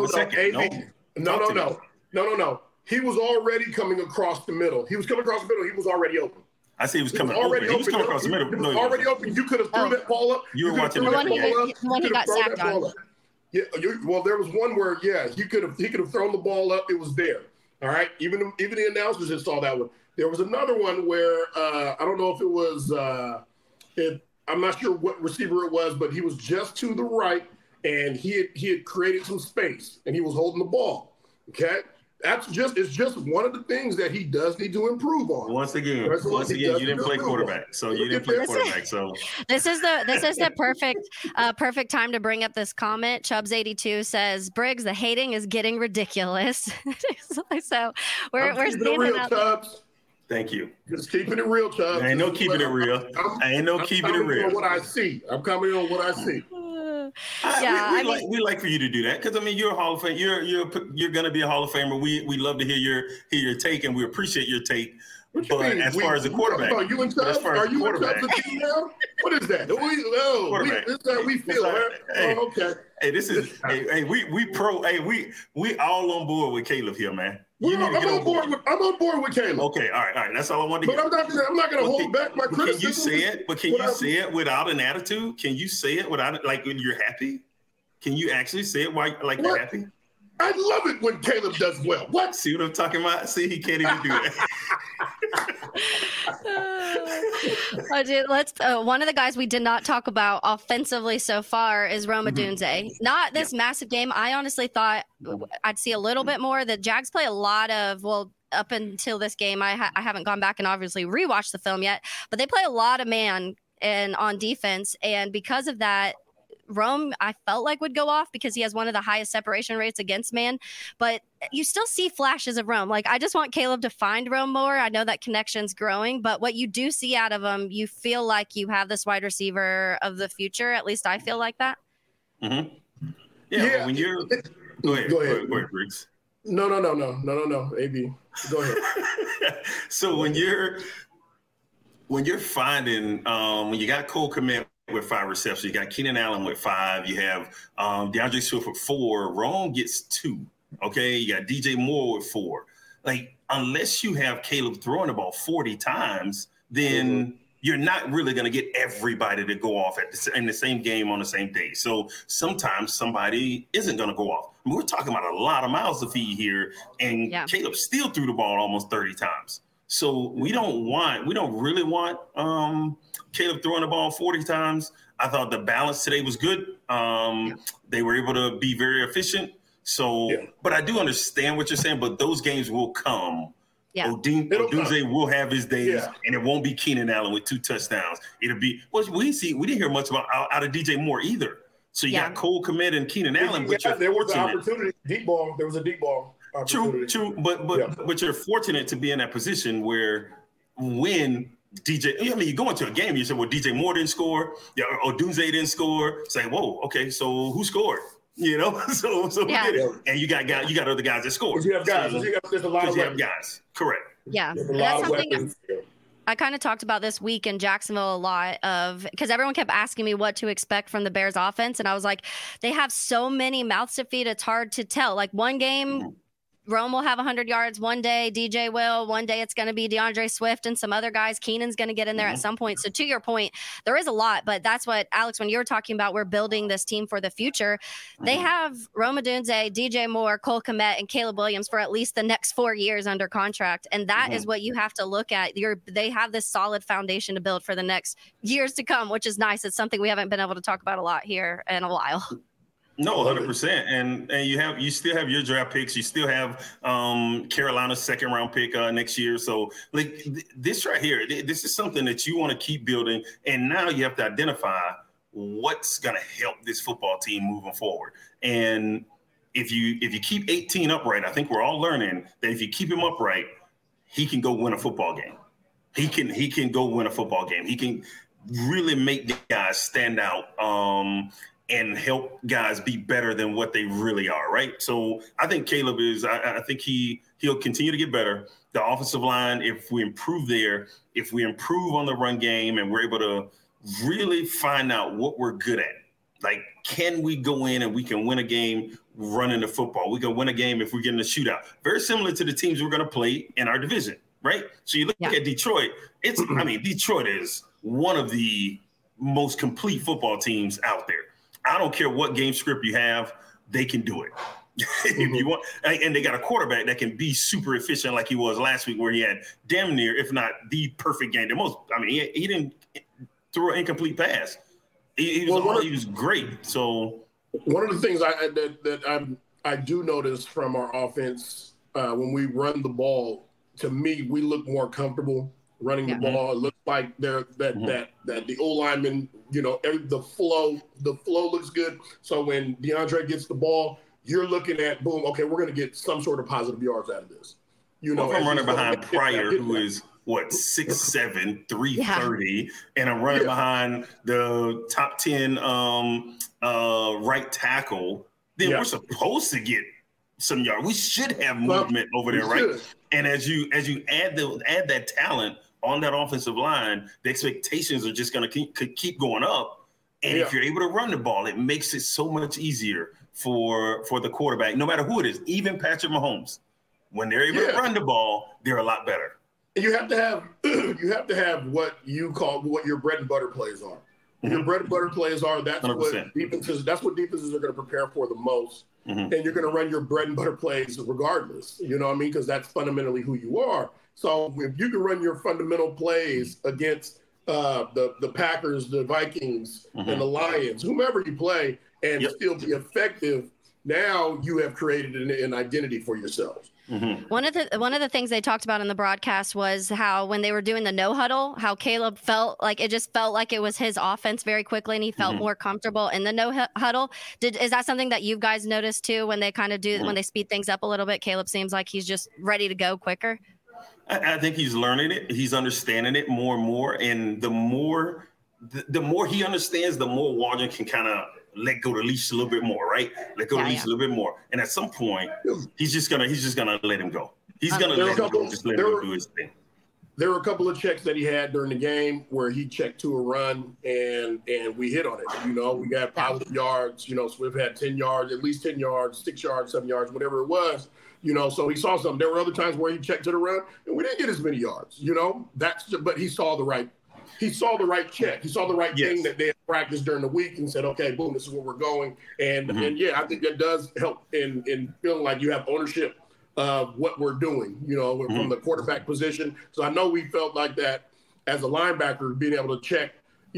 He was already coming across the middle. He was coming across the middle. He was already open. I say he was coming open. He was coming across the middle. He was already open. You could have threw that ball up. You were watching that when he got sacked on. Yeah, well, there was one where, he could have thrown the ball up. It was there. All right. Even the announcers just saw that one. There was another one where I don't know if it was. I'm not sure what receiver it was, but he was just to the right, and he had created some space, and he was holding the ball. Okay. it's just one of the things that he does need to improve on. Once again, you didn't play quarterback, so you didn't play quarterback. So this is the perfect time to bring up this comment. Chubbs82 says, Briggs, the hating is getting ridiculous. So we're standing up. Chubbs. Thank you. Just keeping it real, Chubbs. I ain't no keeping it real. I'm coming on what I see. We like for you to do that because you're a Hall of Fame. You're going to be a Hall of Famer. We love to hear your take, and we appreciate your take. But as far as the quarterback, are you and Chubbs? Are you and Chubbs a team now? What is that? This is how we feel, man. Hey, okay. Hey, this is we pro. Hey, we all on board with Caleb here, man. I'm on board with Caleb. Okay, all right. That's all I wanted to hear. But I'm not going to hold back my criticism. Can you say it? But can you say it without an attitude? Can you say it without when you're happy? Can you actually say it while you're happy? I love it when Caleb does well. What? See what I'm talking about? See, he can't even do that. One of the guys we did not talk about offensively so far is Rome Odunze. Not this massive game. I honestly thought I'd see a little bit more. The Jags play a lot of, up until this game, I haven't gone back and obviously rewatched the film yet, but they play a lot of man and on defense. And because of that, Rome, I felt like would go off because he has one of the highest separation rates against man, but you still see flashes of Rome. I just want Caleb to find Rome more. I know that connection's growing, but what you do see out of him, you feel like you have this wide receiver of the future. At least I feel like that. Mm-hmm. Yeah. When you're go ahead, Briggs. No. AB, go ahead. So when you're finding when you got Cole Kmet with 5 receptions, you got Keenan Allen with 5, you have DeAndre Swift with 4, Rome gets 2. Okay, you got DJ Moore with 4. Unless you have Caleb throwing the ball 40 times, then you're not really going to get everybody to go off in the same game on the same day. So sometimes somebody isn't going to go off. We're talking about a lot of mouths to feed here, and Caleb still threw the ball almost 30 times. So we don't really want Caleb throwing the ball 40 times. I thought the balance today was good. They were able to be very efficient. So, but I do understand what you're saying, but those games will come. Yeah. Odunze will have his days, and it won't be Keenan Allen with 2 touchdowns. It'll be, we didn't hear much out of DJ Moore either. So you got Cole Kmet and Keenan Allen, but there was an opportunity. There was a deep ball. True, but you're fortunate to be in that position where when you go into a game, you say, well, DJ Moore didn't score, Odunze didn't score. Say, whoa, okay, so who scored? So we did it. And you got other guys that scored. You have guys. There's a lot of guys. Correct. Yeah, that's something I kind of talked about this week in Jacksonville a lot because everyone kept asking me what to expect from the Bears offense. And I was like, they have so many mouths to feed. It's hard to tell. One game, Rome will have 100 yards one day, DJ will. One day it's going to be DeAndre Swift and some other guys. Keenan's going to get in there at some point. So to your point, there is a lot, but that's what, Alex, when you were talking about we're building this team for the future, they have Rome Odunze, DJ Moore, Cole Kmet, and Caleb Williams for at least the next 4 years under contract. And that is what you have to look at. They have this solid foundation to build for the next years to come, which is nice. It's something we haven't been able to talk about a lot here in a while. No, 100%. And you still have your draft picks. You still have Carolina's 2nd round pick next year. So this right here, this is something that you want to keep building. And now you have to identify what's going to help this football team moving forward. And if you keep 18 upright, I think we're all learning that if you keep him upright, he can go win a football game. He can go win a football game. He can really make the guys stand out. And help guys be better than what they really are, right? So I think Caleb I think he'll continue to get better. The offensive line, if we improve there, if we improve on the run game and we're able to really find out what we're good at, can we go in and we can win a game running the football? We can win a game if we get in a shootout. Very similar to the teams we're going to play in our division, right? So you look at Detroit, Detroit is one of the most complete football teams out there. I don't care what game script you have, they can do it. If you want, and they got a quarterback that can be super efficient like he was last week, where he had damn near, if not the perfect game. He didn't throw an incomplete pass. He was great. So one of the things I do notice from our offense when we run the ball, to me, we look more comfortable running the ball. It looks like that the O lineman, the flow looks good. So when DeAndre gets the ball, you're looking at boom. Okay, we're going to get some sort of positive yards out of this. If I'm running behind Pryor, who is 6'7", 330, and I'm running behind the top 10 right tackle, then we're supposed to get some yards. We should have movement over there, right? And as you add that talent on that offensive line, the expectations are just going to keep going up. And if you're able to run the ball, it makes it so much easier for the quarterback, no matter who it is, even Patrick Mahomes. When they're able to run the ball, they're a lot better. You have to have what your bread and butter plays are. Your bread and butter plays are that's 100%. what defenses are going to prepare for the most. And you're going to run your bread and butter plays regardless. You know what I mean? Because that's fundamentally who you are. So if you can run your fundamental plays against the Packers, the Vikings, and the Lions, whomever you play, and still be effective, now you have created an identity for yourselves. One of the things they talked about in the broadcast was how when they were doing the no huddle, how Caleb felt like it was his offense very quickly, and he felt more comfortable in the no huddle. Is that something that you guys noticed too when they kind of do when they speed things up a little bit? Caleb seems like he's just ready to go quicker. I think he's learning it. He's understanding it more and more, and the more he understands, the more Waldron can kind of let go the leash a little bit more, right? Let go the leash a little bit more. And at some point, he's just gonna let him go. He's gonna let him go, just let him do his thing. There were a couple of checks that he had during the game where he checked to a run and we hit on it. We got positive yards. Swift had 10 yards, at least 10 yards, 6 yards, 7 yards, whatever it was. So he saw something. There were other times where he checked to the run and we didn't get as many yards. But he saw the right check. He saw the right thing that they had practiced during the week and said, okay, boom, this is where we're going. And I think that does help in feeling like you have ownership of what we're doing, from the quarterback position. So I know we felt like that as a linebacker, being able to check,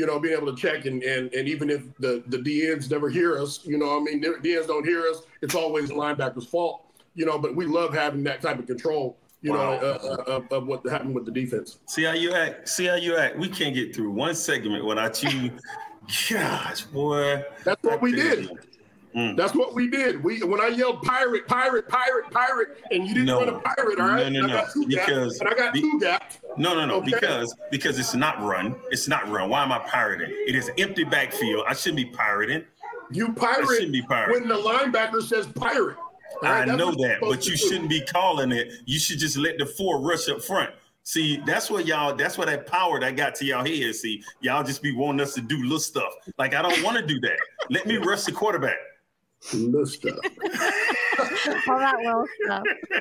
and even if the DNs never hear us, DNs don't hear us, it's always the linebacker's fault, but we love having that type of control. Of what happened with the defense. See how you act. We can't get through one segment without you. Gosh, boy. That's what we did. That's what we did. When I yelled pirate, and you didn't run a pirate, all right? No. I got two gaps. No. Okay? Because it's not run. It's not run. Why am I pirating? It is empty backfield. I shouldn't be pirating. You pirate when the linebacker says pirate. Right, I know that, but you shouldn't be calling it. You should just let the 4 rush up front. See, that's what that power that got to y'all head. See, y'all just be wanting us to do little stuff. Like, I don't want to do that. Let me rush the quarterback. Little stuff. All that little stuff.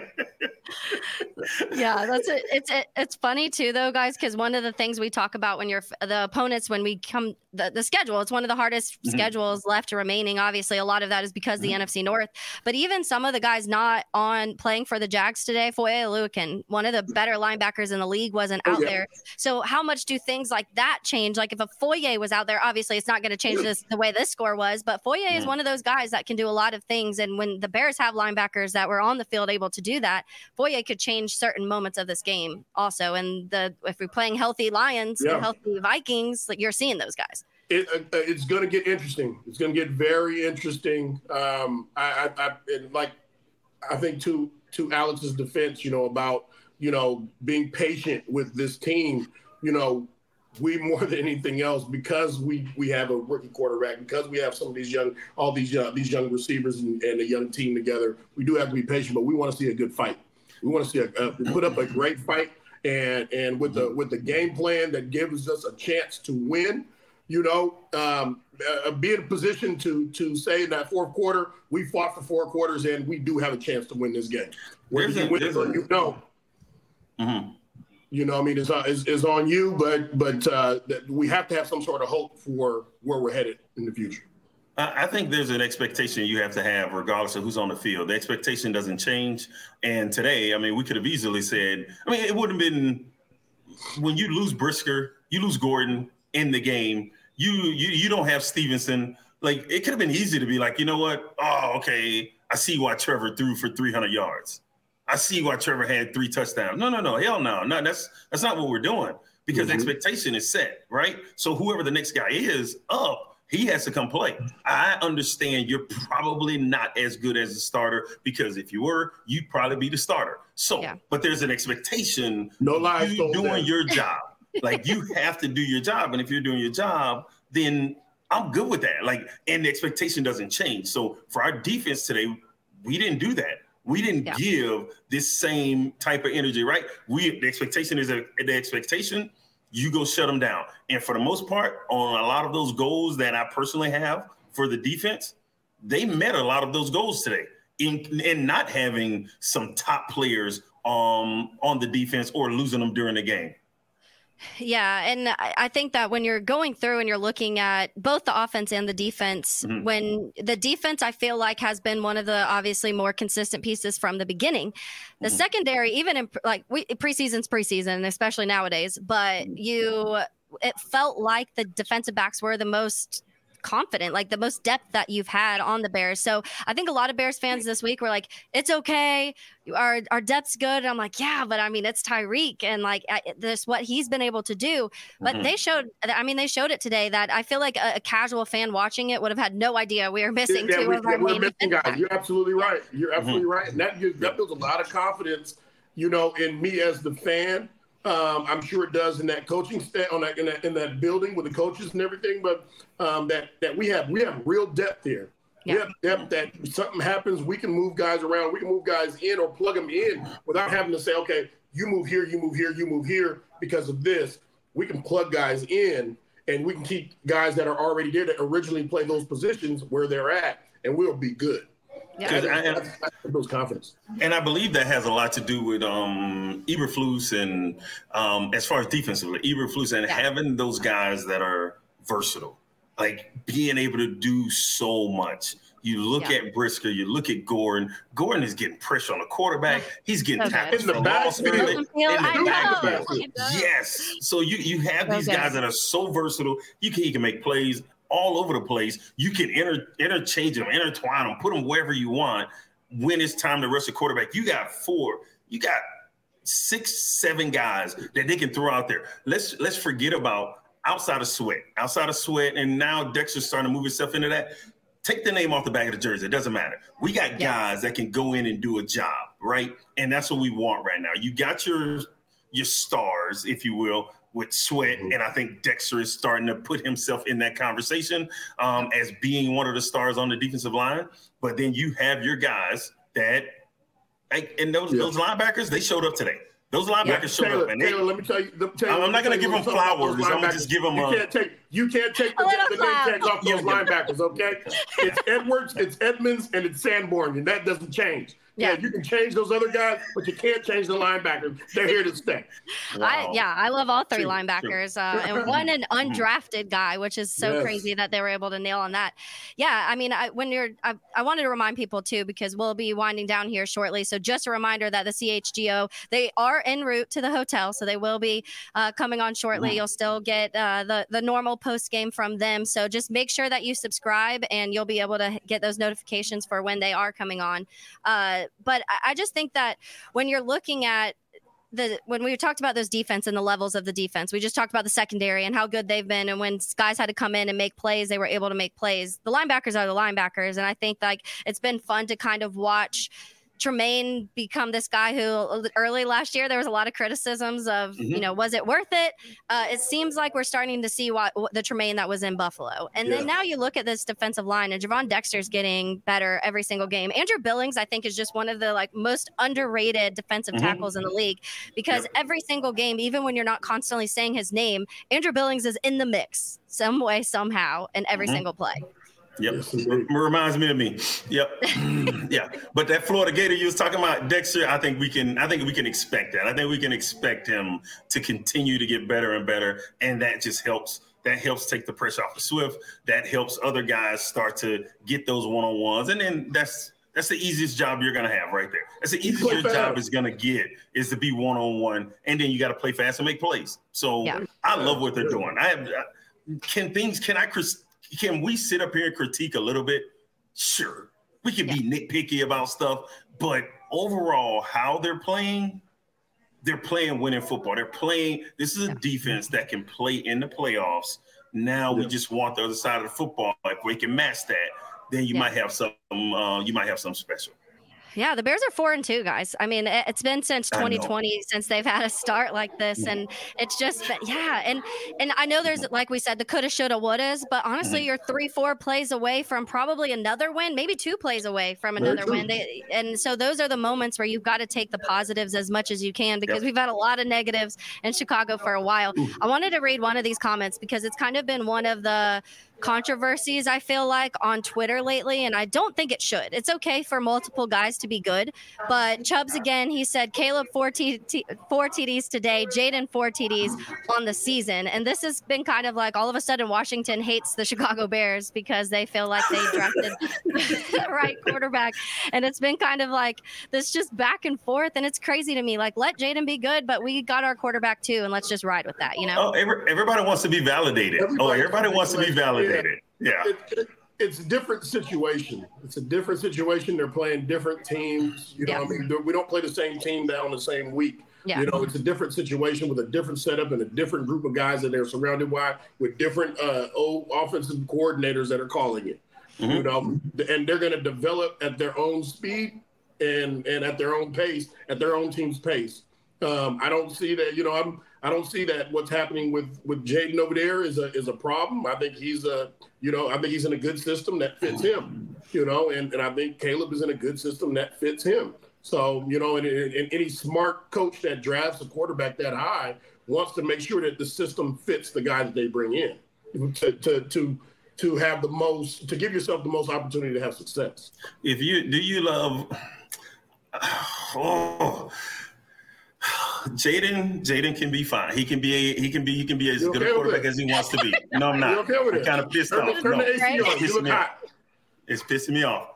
Yeah, that's it. It's funny too, though, guys, because one of the things we talk about when you're the opponents, when we come the schedule, it's one of the hardest schedules left remaining. Obviously, a lot of that is because the NFC North. But even some of the guys not on playing for the Jags today, Foye Oluokun, one of the better linebackers in the league, wasn't out there. So how much do things like that change? Like if a Foye was out there, obviously it's not going to change the way this score was. But Foye is one of those guys that can do a lot of things. And when the Bears have linebackers that were on the field able to do that, Foye could change certain moments of this game also. And if we're playing healthy Lions and healthy Vikings, like you're seeing those guys. It's going to get interesting. It's going to get very interesting. I think to Alex's defense, about being patient with this team. We more than anything else, because we have a rookie quarterback, because we have some of these young receivers and a young team together. We do have to be patient, but we want to see a good fight. We want to see put up a great fight, and with the game plan that gives us a chance to win. Be in a position to say in that fourth quarter, we fought for 4 quarters and we do have a chance to win this game. Whether you win it or you don't. It's on you, but we have to have some sort of hope for where we're headed in the future. I think there's an expectation you have to have regardless of who's on the field. The expectation doesn't change. And today, we could have easily said, it would have been when you lose Brisker, you lose Gordon in the game, you don't have Stevenson. Like, it could have been easy to be like, you know what? Oh, okay. I see why Trevor threw for 300 yards. I see why Trevor had 3 touchdowns. No, hell no. No, that's not what we're doing, because expectation is set, right? So whoever the next guy is up, he has to come play. I understand you're probably not as good as a starter, because if you were, you'd probably be the starter. So, but there's an expectation. No lies. You doing your job. Like, you have to do your job. And if you're doing your job, then I'm good with that. Like, and the expectation doesn't change. So for our defense today, we didn't do that. We didn't give this same type of energy, right? The expectation is the expectation. You go shut them down. And for the most part, on a lot of those goals that I personally have for the defense, they met a lot of those goals today in not having some top players on the defense or losing them during the game. Yeah, and I think that when you're going through and you're looking at both the offense and the defense, when the defense, I feel like, has been one of the obviously more consistent pieces from the beginning. The secondary, even in preseason's preseason, especially nowadays, but it felt like the defensive backs were the most confident, like the most depth that you've had on the Bears. So I think a lot of Bears fans this week were like, it's okay, our depth's good. And I'm like, yeah, but I mean, it's Tyreek, and like this what he's been able to do. But they showed it today, that I feel like a casual fan watching it would have had no idea we were missing two of our main guys. You're absolutely right. You're absolutely right. And that builds a lot of confidence, in me as the fan. I'm sure it does in that coaching in that building with the coaches and everything. But that we have real depth here. Yeah. We have depth that if something happens, we can move guys around. We can move guys in or plug them in without having to say, okay, you move here, you move here, you move here because of this. We can plug guys in, and we can keep guys that are already there that originally play those positions where they're at, and we'll be good. Yeah, that's those confidence. And I believe that has a lot to do with Eberflus and as far as defensively, Eberflus and having those guys that are versatile, like being able to do so much. You look at Brisker, you look at Gordon. Gordon is getting pressure on the quarterback. He's getting tackled in the backfield. Yes. So you have these guys that are so versatile. He can make plays all over the place. You can interchange them, intertwine them, put them wherever you want. When it's time to rush the quarterback, you got 6, 7 guys that they can throw out there. Let's forget about outside of Sweat, and now Dexter's starting to move himself into that. Take the name off the back of the jersey. It doesn't matter. We got guys that can go in and do a job, right? And that's what we want right now. You got your stars, if you will, with Sweat, and I think Dexter is starting to put himself in that conversation as being one of the stars on the defensive line. But then you have your guys that, and those linebackers, they showed up today. Those linebackers showed up, and Taylor, let me tell you. I'm not going to give them flowers. I'm going to just give them. You can't take the name tags off those linebackers. Okay, it's Edwards, it's Edmonds, and it's Sanborn, and that doesn't change. Yeah, you can change those other guys, but you can't change the linebackers. They're here to stay. Wow. I love all 3 linebackers, and one an undrafted guy, which is so crazy that they were able to nail on that. Yeah, I mean, I wanted to remind people too, because we'll be winding down here shortly. So just a reminder that the CHGO, they are en route to the hotel, so they will be coming on shortly. You'll still get the normal post game from them. So just make sure that you subscribe, and you'll be able to get those notifications for when they are coming on. But I just think that when you're looking at when we talked about those defense and the levels of the defense, we just talked about the secondary and how good they've been. And when guys had to come in and make plays, they were able to make plays. The linebackers are the linebackers. And I think it's been fun to kind of watch Tremaine become this guy who early last year, there was a lot of criticisms of, was it worth it? It seems like we're starting to see what the Tremaine that was in Buffalo. And then now you look at this defensive line, and Javon Dexter's getting better every single game. Andrew Billings, I think, is just one of the most underrated defensive tackles in the league, because every single game, even when you're not constantly saying his name, Andrew Billings is in the mix some way, somehow, in every single play. Yep, reminds me of me. Yep, yeah. But that Florida Gator you was talking about, Dexter, I think we can expect that. I think we can expect him to continue to get better and better, and that just helps. That helps take the pressure off of Swift. That helps other guys start to get those one-on-ones, and then that's the easiest job you're gonna have right there. That's the easiest your job is gonna get, is to be one-on-one, and then you got to play fast and make plays. So I love what they're doing. Can we sit up here and critique a little bit? Sure. We can be nitpicky about stuff, But overall, how they're playing winning football. This is a defense that can play in the playoffs. Now we just want the other side of the football. If we can match that, then you might have some special. Yeah, the Bears are 4-2, guys. I mean, it's been since 2020 since they've had a start like this, and it's just and I know there's, like we said, the coulda, shoulda, wouldas, but honestly, you're 3-4 plays away from probably another win, maybe 2 plays away from another win. And so those are the moments where you've got to take the positives as much as you can, because we've had a lot of negatives in Chicago for a while. I wanted to read one of these comments because it's kind of been one of the controversies, I feel like, on Twitter lately, and I don't think it should. It's okay for multiple guys to be good, but Chubbs, again, he said Caleb 4 TDs today, Jayden 4 TDs on the season, and this has been kind of like all of a sudden Washington hates the Chicago Bears because they feel like they drafted the right quarterback, and it's been kind of like this just back and forth, and it's crazy to me. Like, let Jayden be good, but we got our quarterback too, and let's just ride with that, you know? Oh, everybody wants to be validated. Everybody wants to be validated. Yeah. It's a different situation. It's a different situation. They're playing different teams. You know what I mean? We don't play the same team on the same week. Yeah. You know, it's a different situation with a different setup and a different group of guys that they're surrounded by with different offensive coordinators that are calling it. You know, and they're going to develop at their own speed and at their own pace, at their own team's pace. I don't see that, I don't see that what's happening with Jayden over there is a problem. I think he's in a good system that fits him, and I think Caleb is in a good system that fits him. So, and any smart coach that drafts a quarterback that high wants to make sure that the system fits the guys that they bring in to have to give yourself the most opportunity to have success. Do you love Jayden can be fine. He can be as good a quarterback as he wants to be. No, I'm not. I'm kind of pissed off. Turn the AC on. You look hot. It's pissing me off.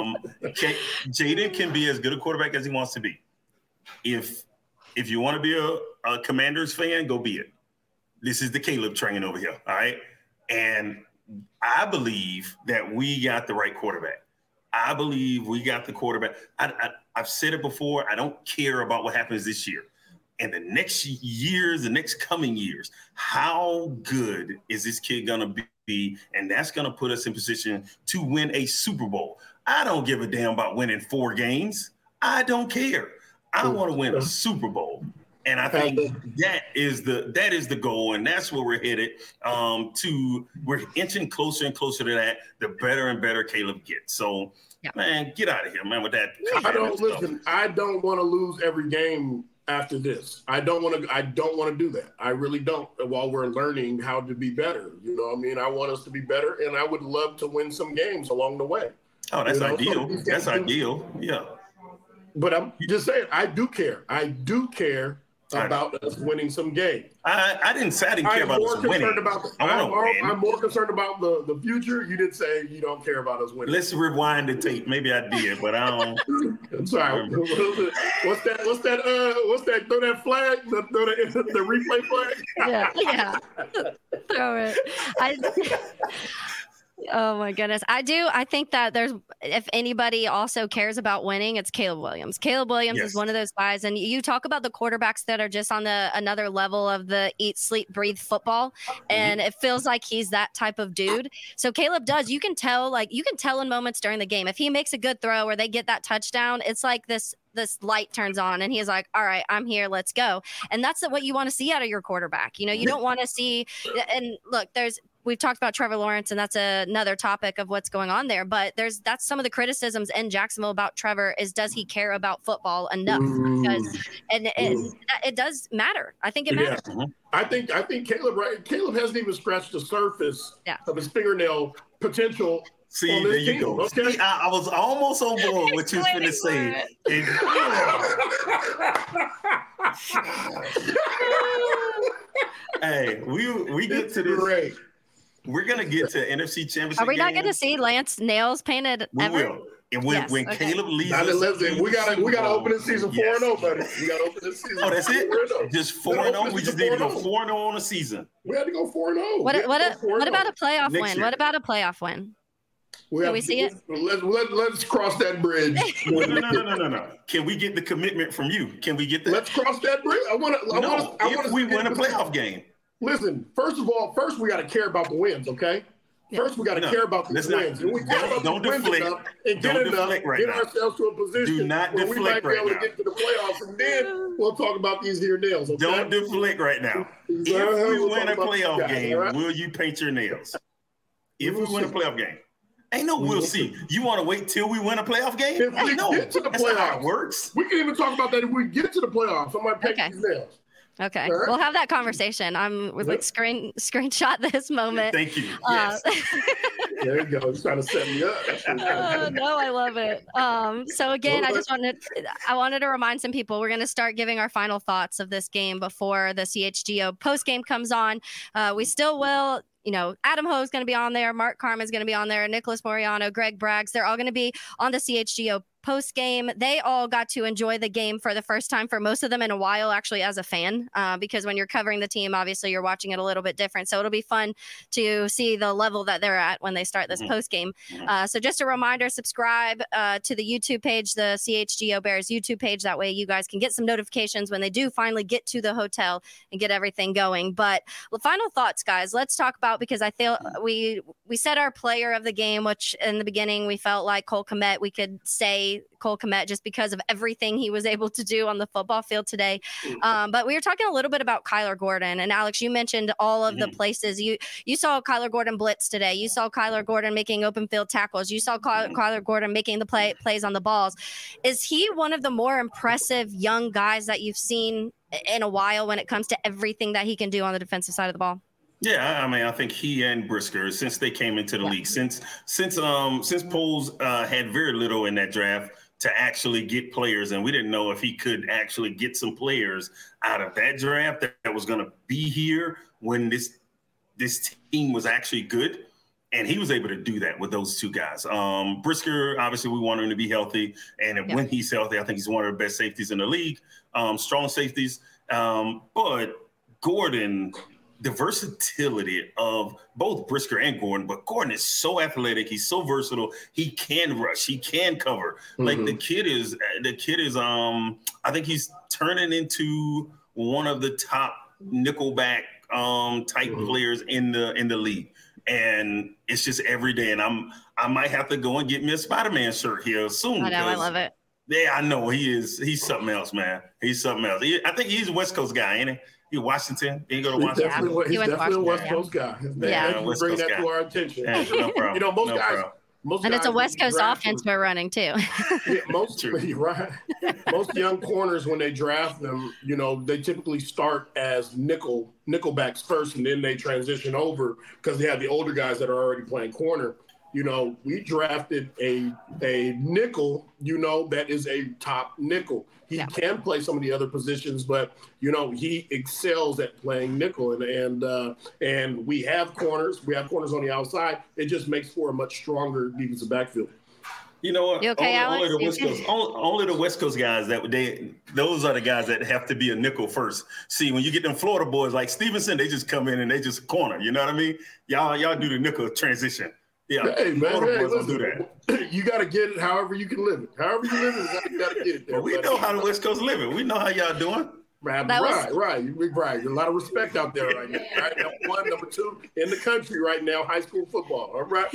Jayden can be as good a quarterback as he wants to be. If you want to be a Commanders fan, go be it. This is the Caleb train over here. All right. And I believe that we got the right quarterback. I believe we got the quarterback. I've said it before. I don't care about what happens this year. And the next coming years, how good is this kid going to be? And that's going to put us in position to win a Super Bowl. I don't give a damn about winning 4 games. I don't care. I want to win a Super Bowl. And I think that is the goal, and that's where we're headed. We're inching closer and closer to that. The better and better Caleb gets. So, man, get out of here, man. With that, I don't want to lose every game after this. I don't want to do that. I really don't. While we're learning how to be better, I want us to be better, and I would love to win some games along the way. Oh, that's ideal. That's ideal. Yeah. But I'm just saying, I do care. I do care about us winning some games. I didn't care about us winning. I'm more concerned about the future. You did say you don't care about us winning. Let's rewind the tape. Maybe I did, but I don't. I'm sorry. What's that? Throw that flag. The replay flag. Yeah. Throw it. Oh my goodness. I think that if anybody also cares about winning, it's Caleb Williams. Caleb Williams is one of those guys. And you talk about the quarterbacks that are just on another level of the eat, sleep, breathe football. And it feels like he's that type of dude. So Caleb you can tell in moments during the game, if he makes a good throw or they get that touchdown, it's like this light turns on and he's like, all right, I'm here, let's go. And that's what you want to see out of your quarterback. You don't want to see, and look, we've talked about Trevor Lawrence, and that's another topic of what's going on there. But that's some of the criticisms in Jacksonville about Trevor is, does he care about football enough? Because it does matter. I think it matters. I think Caleb, right? Caleb hasn't even scratched the surface of his fingernail potential. See, there you go. Okay. I was almost on board what you was going to say. Hey, we get to this. Great. We're going to get to NFC Championship. Are we not going to see Lance nails painted ever? We will. And when Caleb leaves us, we got to open this season 4-0, buddy. We got to open this season. Oh, that's it? Just 4-0? We just need to go 4-0 on a season. We had to go 4-0. What about a playoff win? What about a playoff win? Can we see it? Let's cross that bridge. No. Can we get the commitment from you? Can we get that? Let's cross that bridge. If we win a playoff game. Listen, first we got to care about the wins, okay? First, we got to care about the wins. And we care about the wins enough and get ourselves to a position where we might be able to get to the playoffs, and then we'll talk about these here nails. Okay? Don't deflect right now. If we win a playoff game, will you paint your nails? If we win a playoff game. Ain't no we'll see. You want to wait till we win a playoff game? If we get to the playoffs, how it works. We can even talk about that if we get to the playoffs. I might paint these nails. Okay, we'll have that conversation. I'm like screenshot this moment. Thank you. Yes. There you go. He's trying to set me up. No, I love it. So again, I wanted to remind some people we're going to start giving our final thoughts of this game before the CHGO post game comes on. We still will. Adam Ho is going to be on there. Mark Karma is going to be on there. Nicholas Moriano, Greg Braggs. They're all going to be on the CHGO post game. They all got to enjoy the game for the first time for most of them in a while, actually, as a fan, because when you're covering the team, obviously you're watching it a little bit different. So it'll be fun to see the level that they're at when they start this post game. So just a reminder, subscribe to the YouTube page, the CHGO Bears YouTube page. That way you guys can get some notifications when they do finally get to the hotel and get everything going. But final thoughts, guys, let's talk about, because I feel we said our player of the game, which in the beginning we felt like Cole Kmet. We could say Cole Kmet just because of everything he was able to do on the football field today. But we were talking a little bit about Kyler Gordon. And Alex, you mentioned all of the places. You saw Kyler Gordon blitz today. You saw Kyler Gordon making open field tackles. You saw Kyler Gordon making the plays on the balls. Is he one of the more impressive young guys that you've seen in a while when it comes to everything that he can do on the defensive side of the ball? Yeah, I mean, I think he and Brisker, since they came into the league, since Poles had very little in that draft to actually get players, and we didn't know if he could actually get some players out of that draft that was going to be here when this team was actually good, and he was able to do that with those two guys. Brisker, obviously, we want him to be healthy, and when he's healthy, I think he's one of the best safeties in the league, strong safeties. But Gordon, the versatility of both Brisker and Gordon, but Gordon is so athletic. He's so versatile. He can rush. He can cover. Like the kid is, I think he's turning into one of the top nickelback type players in the league. And it's just every day. And I might have to go and get me a Spider-Man shirt here soon. I know, I love it. Yeah, I know he's something else, man. He's something else. I think he's a West Coast guy, ain't he? He Washington. He go to Washington. He's definitely a West Coast guy. Thank you for bringing that to our attention. Yeah, no problem. Most and guys it's a West Coast offense we're running too. Most young corners, when they draft them, they typically start as nickelbacks first, and then they transition over because they have the older guys that are already playing corner. We drafted a nickel, that is a top nickel. He can play some of the other positions, but, he excels at playing nickel. And we have corners. We have corners on the outside. It just makes for a much stronger defensive backfield. You know what? You okay, only the West Coast guys those are the guys that have to be a nickel first. See, when you get them Florida boys like Stevenson, they just come in and they just corner. You know what I mean? Y'all do the nickel transition. Yeah, hey man, listen, do that. You got to get it however you can live it. However you live it, you got to get it there. Well, we know how the West Coast live it. We know how y'all doing. Right. There's a lot of respect out there right now. Right? Number one, number two in the country right now, high school football. All right.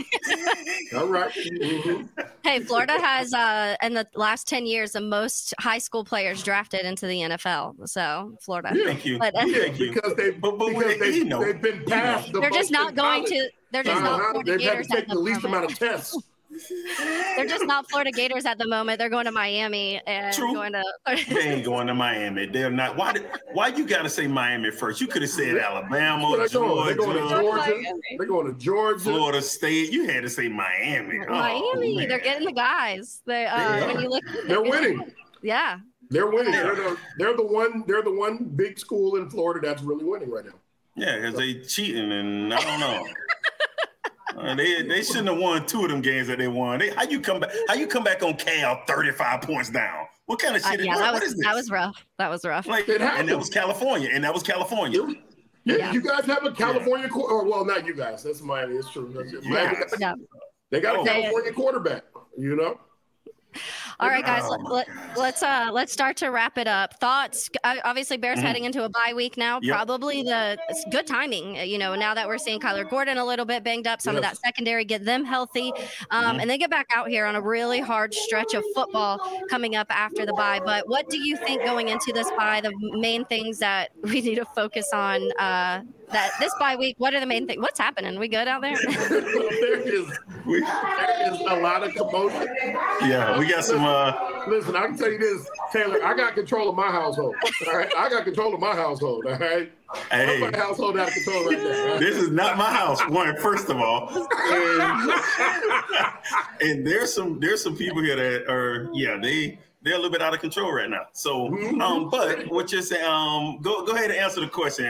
Mm-hmm. Hey, Florida has in the last 10 years the most high school players drafted into the NFL. So Florida. Yeah. Thank you. Because they've been past the. They're just not going to. They're just not Florida Gators. They've had to take the least amount of tests. They're just not Florida Gators at the moment. They're going to Miami and going to. They ain't going to Miami. They're not. Why you got to say Miami first? You could have said Alabama, Georgia. They're going to Georgia. They're going to Georgia. Florida State. You had to say Miami. Miami. They're getting the guys. When you look, they're winning. Yeah. They're winning. They're the one big school in Florida that's really winning right now. Yeah, because they cheating, and I don't know. They shouldn't have won two of them games that they won. How you come back on Cal 35 points down? What kind of shit is that? That was rough. And that was California. Yeah. You guys have a California well, not you guys. That's Miami. It's true. They got a California quarterback, you know? All right, guys, let's start to wrap it up. Thoughts? Obviously, Bears heading into a bye week now. Yep. Probably it's good timing. You know, now that we're seeing Kyler Gordon a little bit banged up, some of that secondary, get them healthy, and they get back out here on a really hard stretch of football coming up after the bye. But what do you think going into this bye? The main things that we need to focus on that this bye week. What are the main things? What's happening? We good out there? there is a lot of commotion. Yeah, we got some. Listen, I can tell you this, Taylor. I got control of my household. All right, I got control of my household. All right, hey, my household out of control right now. Right? This is not my house. First of all, and there's some people here that are they're a little bit out of control right now. So, but what you're saying, go ahead and answer the question.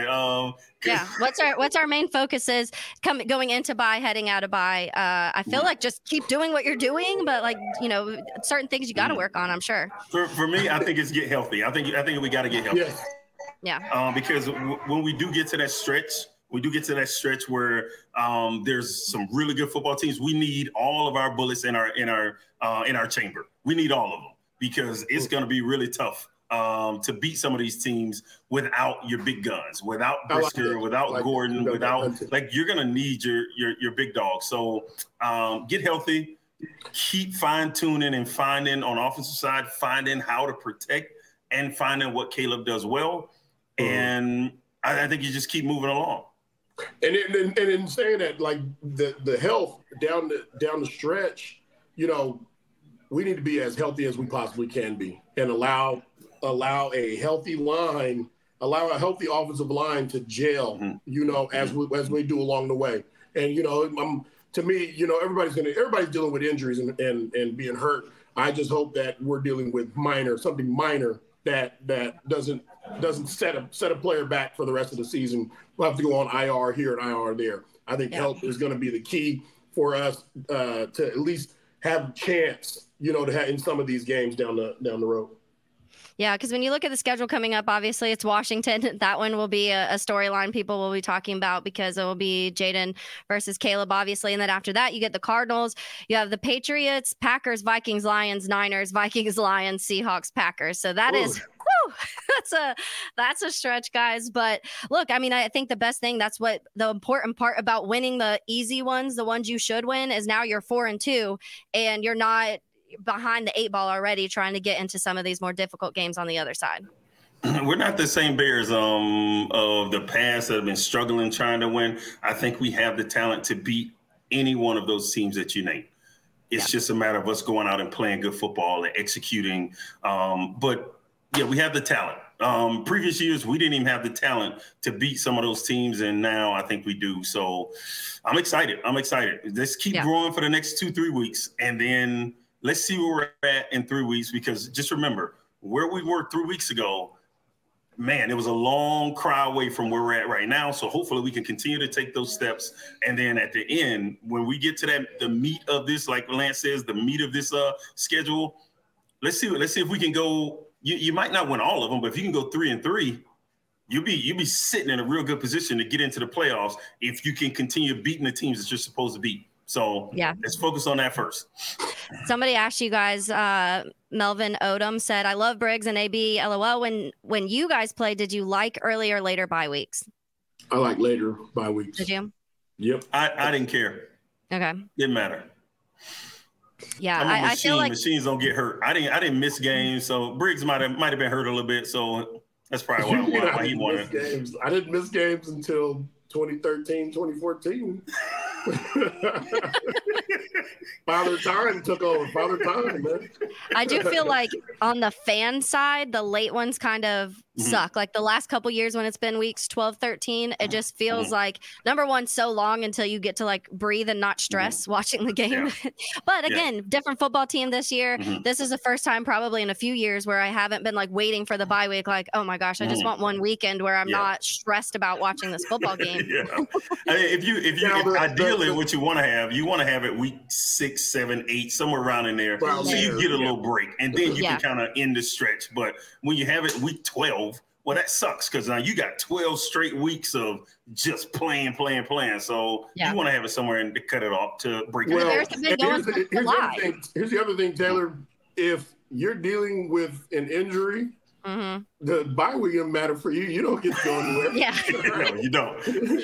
What's our main focus is going into bye, heading out of bye. I feel like just keep doing what you're doing, but certain things you got to work on. I'm sure. For me, I think it's get healthy. I think we got to get healthy. Yes. Yeah. Because when we do get to that stretch, where there's some really good football teams, we need all of our bullets in our chamber. We need all of them. Because it's going to be really tough to beat some of these teams without your big guns, without Brisker, without Gordon, you're going to need your big dog. So get healthy, keep fine tuning and finding on the offensive side, finding how to protect and finding what Caleb does well. And I think you just keep moving along. And in saying that, like the health down the stretch, we need to be as healthy as we possibly can be and allow a healthy offensive line to gel, as we do along the way. And, to me, everybody's dealing with injuries and being hurt. I just hope that we're dealing with something minor that doesn't set a player back for the rest of the season. We'll have to go on IR here and IR there. I think health is going to be the key for us to at least have a chance, to have in some of these games down the road. Yeah, because when you look at the schedule coming up, obviously it's Washington. That one will be a storyline people will be talking about because it will be Jaden versus Caleb, obviously. And then after that, you get the Cardinals. You have the Patriots, Packers, Vikings, Lions, Niners, Vikings, Lions, Seahawks, Packers. So that is that's a stretch, guys. But look, I mean, I think the best thing, that's what the important part about winning the easy ones, the ones you should win, is now you're 4-2 and you're not behind the 8 ball already trying to get into some of these more difficult games on the other side. We're not the same Bears of the past that have been struggling trying to win. I think we have the talent to beat any one of those teams that you name. It's just a matter of us going out and playing good football and executing. But we have the talent. Previous years, we didn't even have the talent to beat some of those teams, and now I think we do. So I'm excited. Let's keep growing for the next 2-3 weeks, and then let's see where we're at in 3 weeks, because just remember where we were 3 weeks ago, man, it was a long cry away from where we're at right now. So hopefully we can continue to take those steps. And then at the end, when we get to the meat of this, like Lance says, the meat of this schedule, let's see if we can go. You might not win all of them, but if you can go 3-3, you'll be sitting in a real good position to get into the playoffs if you can continue beating the teams that you're supposed to beat. So let's focus on that first. Somebody asked you guys, Melvin Odom said, I love Briggs and AB, LOL. When you guys played, did you like early or later bye weeks? I like later bye weeks. Did you? Yep. I didn't care. Okay. Didn't matter. Yeah, I feel like machines don't get hurt. I didn't miss games, so Briggs might have been hurt a little bit. So that's probably why he wanted games. I didn't miss games until 2013, 2014. Father Time took over. Father Time, man. I do feel like on the fan side, the late ones kind of suck. Like the last couple years when it's been weeks 12, 13, it just feels like, number one, so long until you get to like breathe and not stress watching the game. Yeah. But again, different football team this year. This is the first time probably in a few years where I haven't been like waiting for the bye week. Like, oh my gosh, I just want one weekend where I'm not stressed about watching this football game. I mean, if you ideally what you want to have it week 6, 7, 8, somewhere around in there, so you get a little break, and then you can kind of end the stretch. But when you have it week 12, Well, that sucks because now you got 12 straight weeks of just playing. So you want to have it somewhere and to cut it off to break it. Well, here's the other thing, Taylor. If you're dealing with an injury, the bye week doesn't matter for you. You don't get to go anywhere. No, you don't.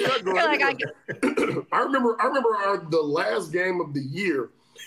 I remember the last game of the year.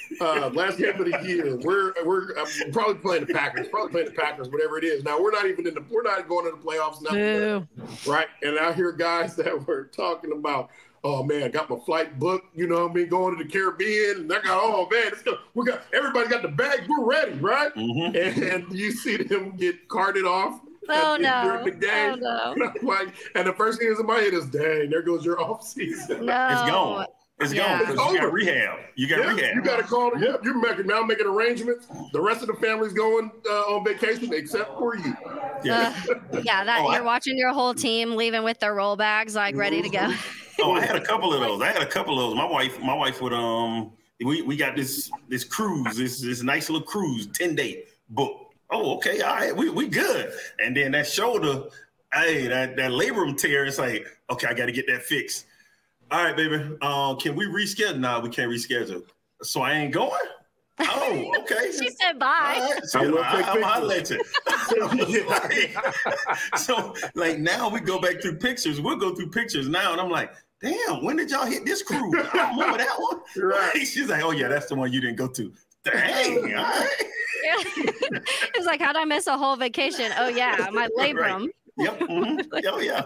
We're probably playing the Packers, whatever it is. Now we're not going into the playoffs, nothing, right? And I hear guys that were talking about, oh man, I got my flight booked, you know what I mean, going to the Caribbean, and I got, oh man, everybody got the bags, we're ready, right? And you see them get carted off. During the game. And the first thing that's in my head is, dang, there goes your off season. No. It's gone. It's gone. You got rehab. You got to call it. Yeah, you're making arrangements. The rest of the family's going on vacation except for you. You're watching your whole team leaving with their roll bags, like ready to go. I had a couple of those. My wife would we got this cruise, this nice little cruise, 10-day book. Oh, okay, all right, we good. And then that shoulder, that labrum tear, it's like, okay, I got to get that fixed. All right, baby. Can we reschedule? No, we can't reschedule. So I ain't going? Oh, okay. She said bye. Right. So, I'll let you. So, like, now we go back through pictures. We'll go through pictures now. And I'm like, damn, when did y'all hit this cruise? I don't remember that one. Right. She's like, oh, yeah, that's the one you didn't go to. Dang, all right. It's like, how'd I miss a whole vacation? Oh, yeah, my labrum. Right. Yep. Oh, yeah.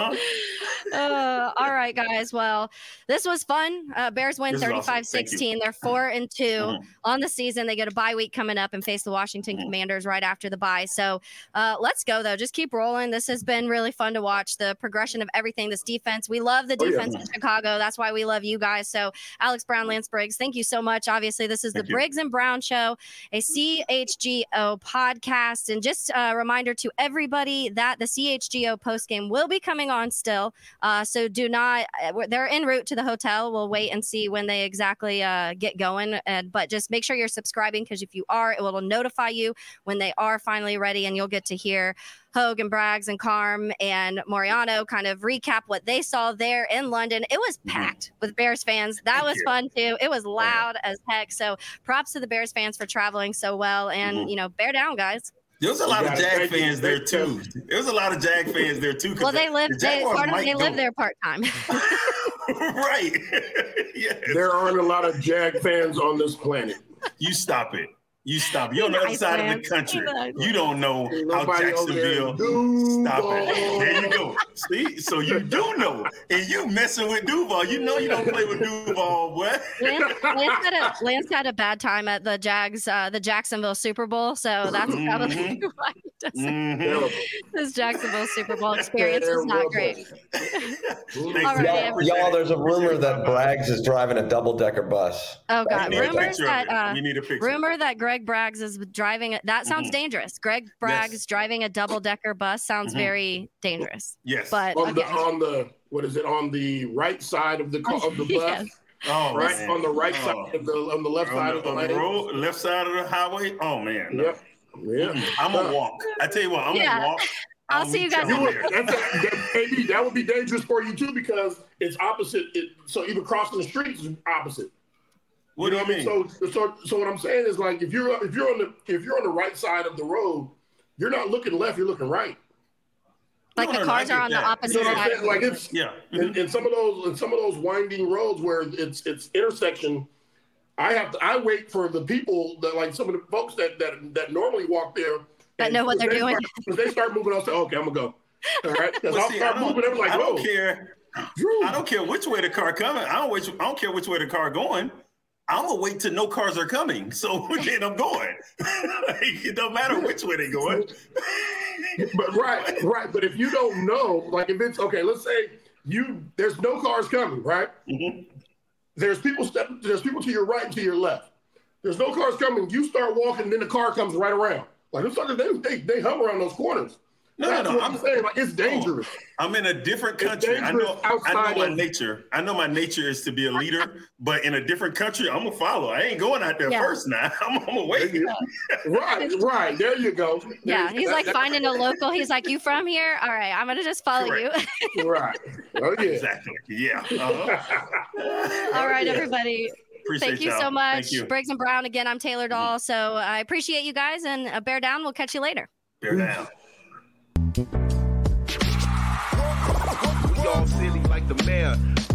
All right, guys. Well, this was fun. Bears win 35-16. They're 4-2 on the season. They get a bye week coming up and face the Washington Commanders right after the bye. So let's go, though. Just keep rolling. This has been really fun to watch, the progression of everything, this defense. We love the defense in Chicago. That's why we love you guys. So Alex Brown, Lance Briggs, thank you so much. Obviously, this is the Briggs and Brown Show, a CHGO podcast. And just a reminder to everybody that the CHGO postgame will be coming on still. So do not, they're en route to the hotel. We'll wait and see when they exactly get going. But just make sure you're subscribing, because if you are, it will notify you when they are finally ready, and you'll get to hear Hogue and Braggs and Carm and Moriano kind of recap what they saw there in London. It was packed with Bears fans. That was fun too. It was loud as heck. So props to the Bears fans for traveling so well. And, bear down, guys. There was a lot of Jag fans there too. Well, they live there part-time. Right. Yes. There aren't a lot of Jag fans on this planet. You stop it. You're on the other side of the country. You don't know how Jacksonville. Stop it. There you go. See? So you do know. And you messing with Duval. You know you don't play with Duval, boy. Lance had a bad time at the Jacksonville Super Bowl. So that's probably why he doesn't. His Jacksonville Super Bowl experience was not great. Y'all, there's a rumor that Braggs is driving a double-decker bus. Oh, God. We need a picture. Rumor that Greg Braggs is driving it. That sounds dangerous. Greg Braggs driving a double-decker bus sounds very dangerous. Yes. But on the right side of the bus? Yes. Oh, right. Man. On the right side on the left side of the lane. Road, left side of the highway. Oh man. Yep. Yeah. I'm gonna walk. I tell you what, I'm gonna walk. I'll see you guys. That would be dangerous for you too, because it's opposite. So even crossing the streets is opposite. What do you mean? So what I'm saying is, like, if you're on the right side of the road, you're not looking left, you're looking right. Like the cars are on the opposite side. Like it's in some of those winding roads where it's intersection. I wait for the people that, like, some of the folks that normally walk there that know what they're doing. Because they start moving, I'll say, okay, I'm gonna go. All right. I'll start moving. I'm like, I don't care. I don't care which way the car coming. I don't care which way the car going. I'm gonna wait till no cars are coming. So then I'm going. It don't matter which way they're going. But right. But if you don't know, like, if it's okay, let's say there's no cars coming, right? Mm-hmm. There's people to your right and to your left. There's no cars coming. You start walking, and then the car comes right around. Like, it's like they hum around those corners. I'm saying. Like, it's dangerous. I'm in a different country. I know my nature. I know my nature is to be a leader, but in a different country, I'm gonna follow. I ain't going out there first now. I'm gonna wait. Right. There you go. He's like finding a local. He's like, you from here? All right, I'm gonna just follow you. Right. Oh yeah. Exactly. Yeah. All right, everybody. Thank you so much. Thank you. Briggs and Brown again. I'm Taylor Dahl. So I appreciate you guys, and bear down. We'll catch you later. Bear down. We all silly like the mayor.